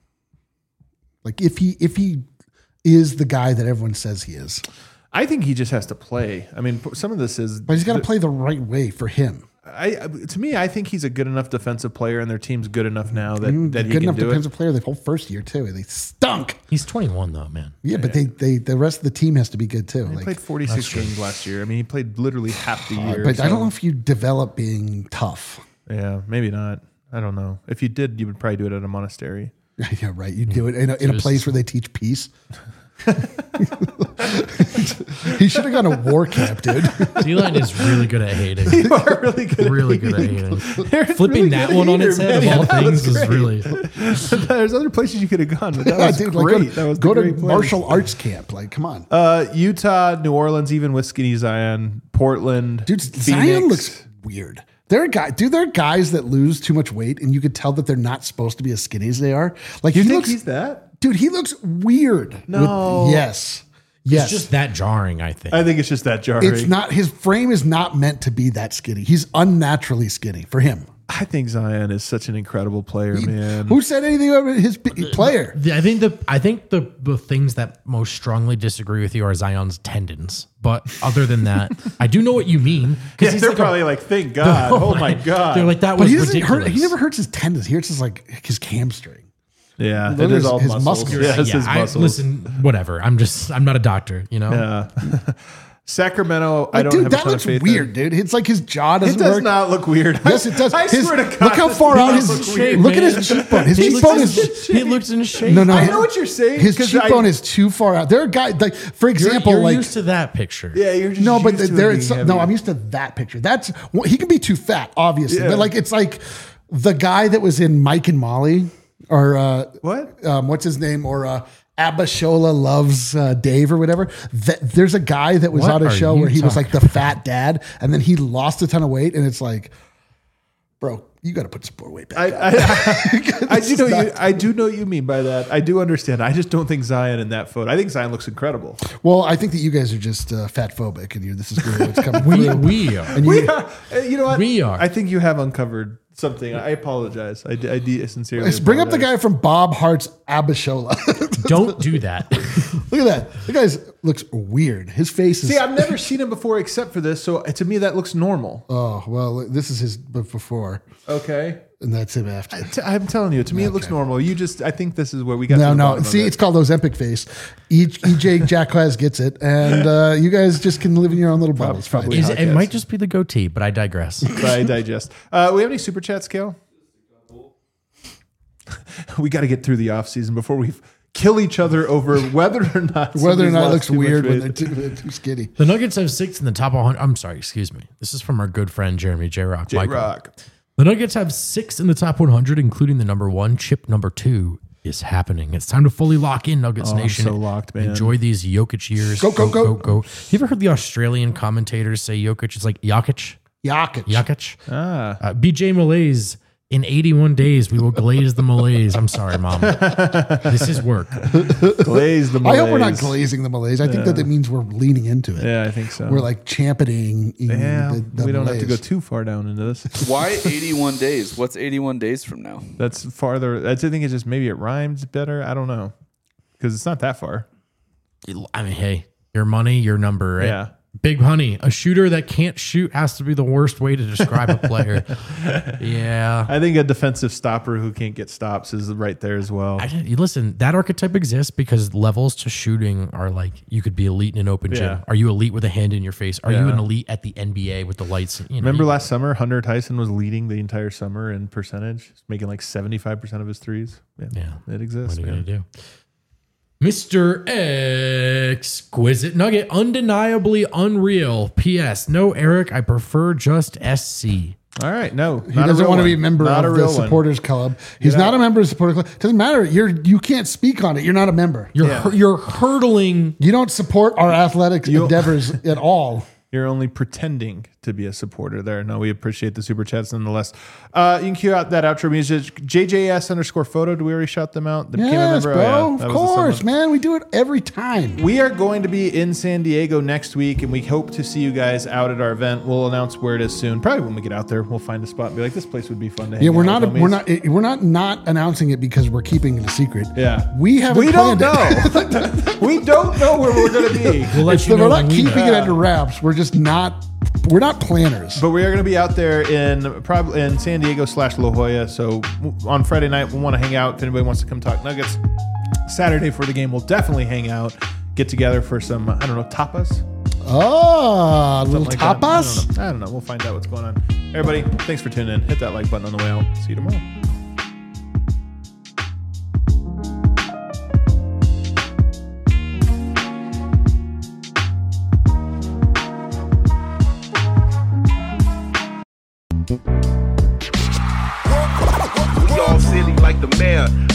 S3: Like if he is the guy that everyone says he is,
S2: I think he just has to play. I mean, some of this is.
S3: but he's got to play the right way for him.
S2: To me, I think he's a good enough defensive player, and their team's good enough now that he
S3: Good
S2: can
S3: enough
S2: do it.
S3: defensive player. The whole first year too. They stunk.
S1: he's 21 though, man.
S3: Yeah, but the rest of the team has to be good too.
S2: He
S3: Like,
S2: played 46 games last year. I mean, he played literally half the year.
S3: but I
S2: so-
S3: don't know if you develop being tough.
S2: Yeah, maybe not. I don't know. If you did, you would probably do it at a monastery.
S3: Yeah, right. You do it in a place where they teach peace. He should have gone to war camp, dude.
S1: D-line is really good at hating.
S2: You are really good.
S1: Really good at hating.
S2: Aaron's
S1: Flipping
S2: really
S1: that
S2: good
S1: one on
S2: hater,
S1: its head
S2: man.
S1: of all
S2: Yeah, that was
S1: things is
S2: great.
S1: really.
S2: There's other places you could have gone, but that was
S3: Dude,
S2: great.
S3: like,
S2: That was
S3: go
S2: the
S3: to
S2: great place.
S3: martial arts camp. Like, come on,
S2: Utah, New Orleans, even with Skinny Zion, Portland,
S3: dude.
S2: Phoenix.
S3: Zion looks weird. There are guys that lose too much weight, and you could tell that they're not supposed to be as skinny as they are. Like,
S2: You
S3: he
S2: think
S3: looks.
S2: he's that?
S3: Dude, he looks weird.
S2: No.
S3: Yes. Yes.
S1: It's just that jarring, I think.
S2: I think it's just that jarring.
S3: It's not, his frame is not meant to be that skinny. He's unnaturally skinny for him.
S2: I think Zion is such an incredible player, man.
S3: Who said anything about his player?
S1: I think the things that most strongly disagree with you are Zion's tendons. But other than that, I do know what you mean.
S2: Yeah, they're probably like, thank God. Oh my God.
S1: They're like, that
S3: But
S1: was
S3: he doesn't
S1: ridiculous.
S3: hurt. He never hurts his tendons. He hurts his hamstring.
S2: Yeah, it
S3: Literally
S2: is all
S3: his
S2: muscles.
S3: muscles.
S2: Yeah, it's his muscles.
S1: Listen, whatever. I'm not a doctor, you know?
S2: Yeah. Sacramento, I don't
S3: Dude,
S2: have a
S3: that
S2: ton
S3: looks
S2: of faith
S3: weird,
S2: in.
S3: dude. It's like his jaw
S2: It
S3: doesn't
S2: does
S3: work.
S2: not look weird.
S3: Yes, it does.
S2: I swear to God.
S3: Look how
S2: this
S3: far out
S2: does
S3: his.
S2: look weird,
S3: Look at
S2: man.
S3: his cheekbone. His cheekbone is.
S1: He looks in shape.
S3: No,
S2: I know what you're saying.
S3: His
S2: 'cause
S3: cheekbone is too far out. There are guys like, for example,
S1: You're
S3: like
S1: used to that picture.
S2: Yeah, you're just
S3: no, but
S2: used to
S3: there
S2: it
S3: is
S2: being
S3: no.
S2: heavy.
S3: I'm used to that picture. That's well, he can be too fat, obviously,
S2: Yeah.
S3: but like it's like the guy that was in Mike and Molly, or
S2: What?
S3: what's his name, or Abishola Loves Dave or whatever. There's a guy that was
S1: What
S3: on a
S1: are
S3: show
S1: you
S3: where he was like
S1: talking
S3: the fat dad, and then he lost a ton of weight, and it's like, bro, you got to put some more weight back.
S2: I do know what you mean by that. I do understand. I just don't think Zion in that photo. I think Zion looks incredible.
S3: Well, I think that you guys are just fat phobic, and this is really what's coming
S1: We
S3: through.
S1: we are.
S3: And
S2: We are. You know what?
S1: We are.
S2: I think you have uncovered something. I apologize. I sincerely
S3: Let's bring up the
S2: apologize.
S3: guy from Bob Hart's Abishola.
S1: Don't do that.
S3: Look at that. The guy looks weird. His face is.
S2: See, I've never seen him before except for this, so to me that looks normal.
S3: Oh, well, this is his before,
S2: Okay.
S3: and that's him after.
S2: I'm telling you, to me it looks normal. I think this is where we got. to
S3: No,
S2: the
S3: no.
S2: bottom of
S3: See,
S2: it.
S3: it's called Ozempic face. EJ Jacquez gets it, and you guys just can live in your own little bubbles.
S2: Probably.
S3: Fine.
S1: It might just be the goatee, but I digress.
S2: I digest. We have any super chats, Kale? We got to get through the off season before we kill each other over whether or not
S3: Whether or
S2: somebody's
S3: not it
S2: lost
S3: looks
S2: too much
S3: weird when
S2: weight.
S3: they're too skinny.
S1: The Nuggets have 6 in the top 100. I'm sorry, excuse me. This is from our good friend Jeremy J. Rock.
S2: J-Rock.
S1: The Nuggets have 6 in the top 100, including the number 1. Chip number 2 is happening. It's time to fully lock in, Nuggets
S2: I'm
S1: Nation.
S2: so locked, man.
S1: Enjoy these Jokic years.
S3: Go, go, go.
S1: go. You ever heard the Australian commentators say Jokic? It's like Jokic.
S3: Jokic.
S1: Jokic. BJ Malaise. In 81 days, we will glaze the Malaise. I'm sorry, Mom. This is work.
S2: Glaze the
S3: I hope we're not
S2: Malaise.
S3: glazing the Malaise. I think that means we're leaning into it.
S2: Yeah, I think so.
S3: We're like championing.
S2: yeah,
S3: the
S2: we don't have to go
S3: Malaise.
S2: too far down into this.
S5: Why 81 days? What's 81 days from now?
S2: That's farther. I think it's just maybe it rhymes better. I don't know because it's not that far.
S1: I mean, hey, your money, your number, right?
S2: Yeah.
S1: Big Honey, a shooter that can't shoot has to be the worst way to describe a player. Yeah.
S2: I think a defensive stopper who can't get stops is right there as well.
S1: Listen, that archetype exists because levels to shooting are like you could be elite in an open gym.
S2: Yeah.
S1: Are you elite with a hand in your face? Are you
S2: Yeah.
S1: an elite at the NBA with the lights? You know,
S2: Remember last summer, Hunter Tyson was leading the entire summer in percentage, making like 75% of his threes.
S1: Yeah.
S2: It exists.
S1: What are you
S2: man.
S1: going to do? Mr. Exquisite Nugget, undeniably unreal. P.S. No, Eric, I prefer just SC.
S2: All right, no,
S3: He doesn't want to be a member of the supporters club. He's not a member of the supporters club. Doesn't matter. You can't speak on it. You're not a member.
S1: You're hurdling.
S3: You don't support our athletic endeavors at all.
S2: You're only pretending to be a supporter there. No, we appreciate the super chats nonetheless. You can cue out that outro music. JJS_photo. Do we already shout them out?
S3: Yes, bro.
S2: Oh, yeah,
S3: Of
S2: that was the
S3: course,
S2: someone.
S3: man. We do it every time.
S2: We are going to be in San Diego next week, and we hope to see you guys out at our event. We'll announce where it is soon. Probably when we get out there, we'll find a spot and be like, this place would be fun to hang
S3: Yeah, we're
S2: out
S3: not.
S2: with homies.
S3: We're not announcing it because we're keeping it a secret.
S2: Yeah,
S3: we haven't.
S2: We don't
S3: planned
S2: know.
S3: it.
S2: We don't know where we're going to be.
S1: We'll let you know
S3: We're
S1: when
S3: not
S1: we
S3: keeping
S1: know.
S3: it under wraps. We're just not. We're not planners.
S2: But we are going to be out there in San Diego / La Jolla. So on Friday night, we'll want to hang out. If anybody wants to come talk Nuggets, Saturday for the game, we'll definitely hang out, get together for some, I don't know, tapas.
S3: Oh, little
S2: Something like that.
S3: tapas.
S2: I don't know. We'll find out what's going on. Everybody, thanks for tuning in. Hit that like button on the way out. See you tomorrow.
S6: Y'all silly like the mayor.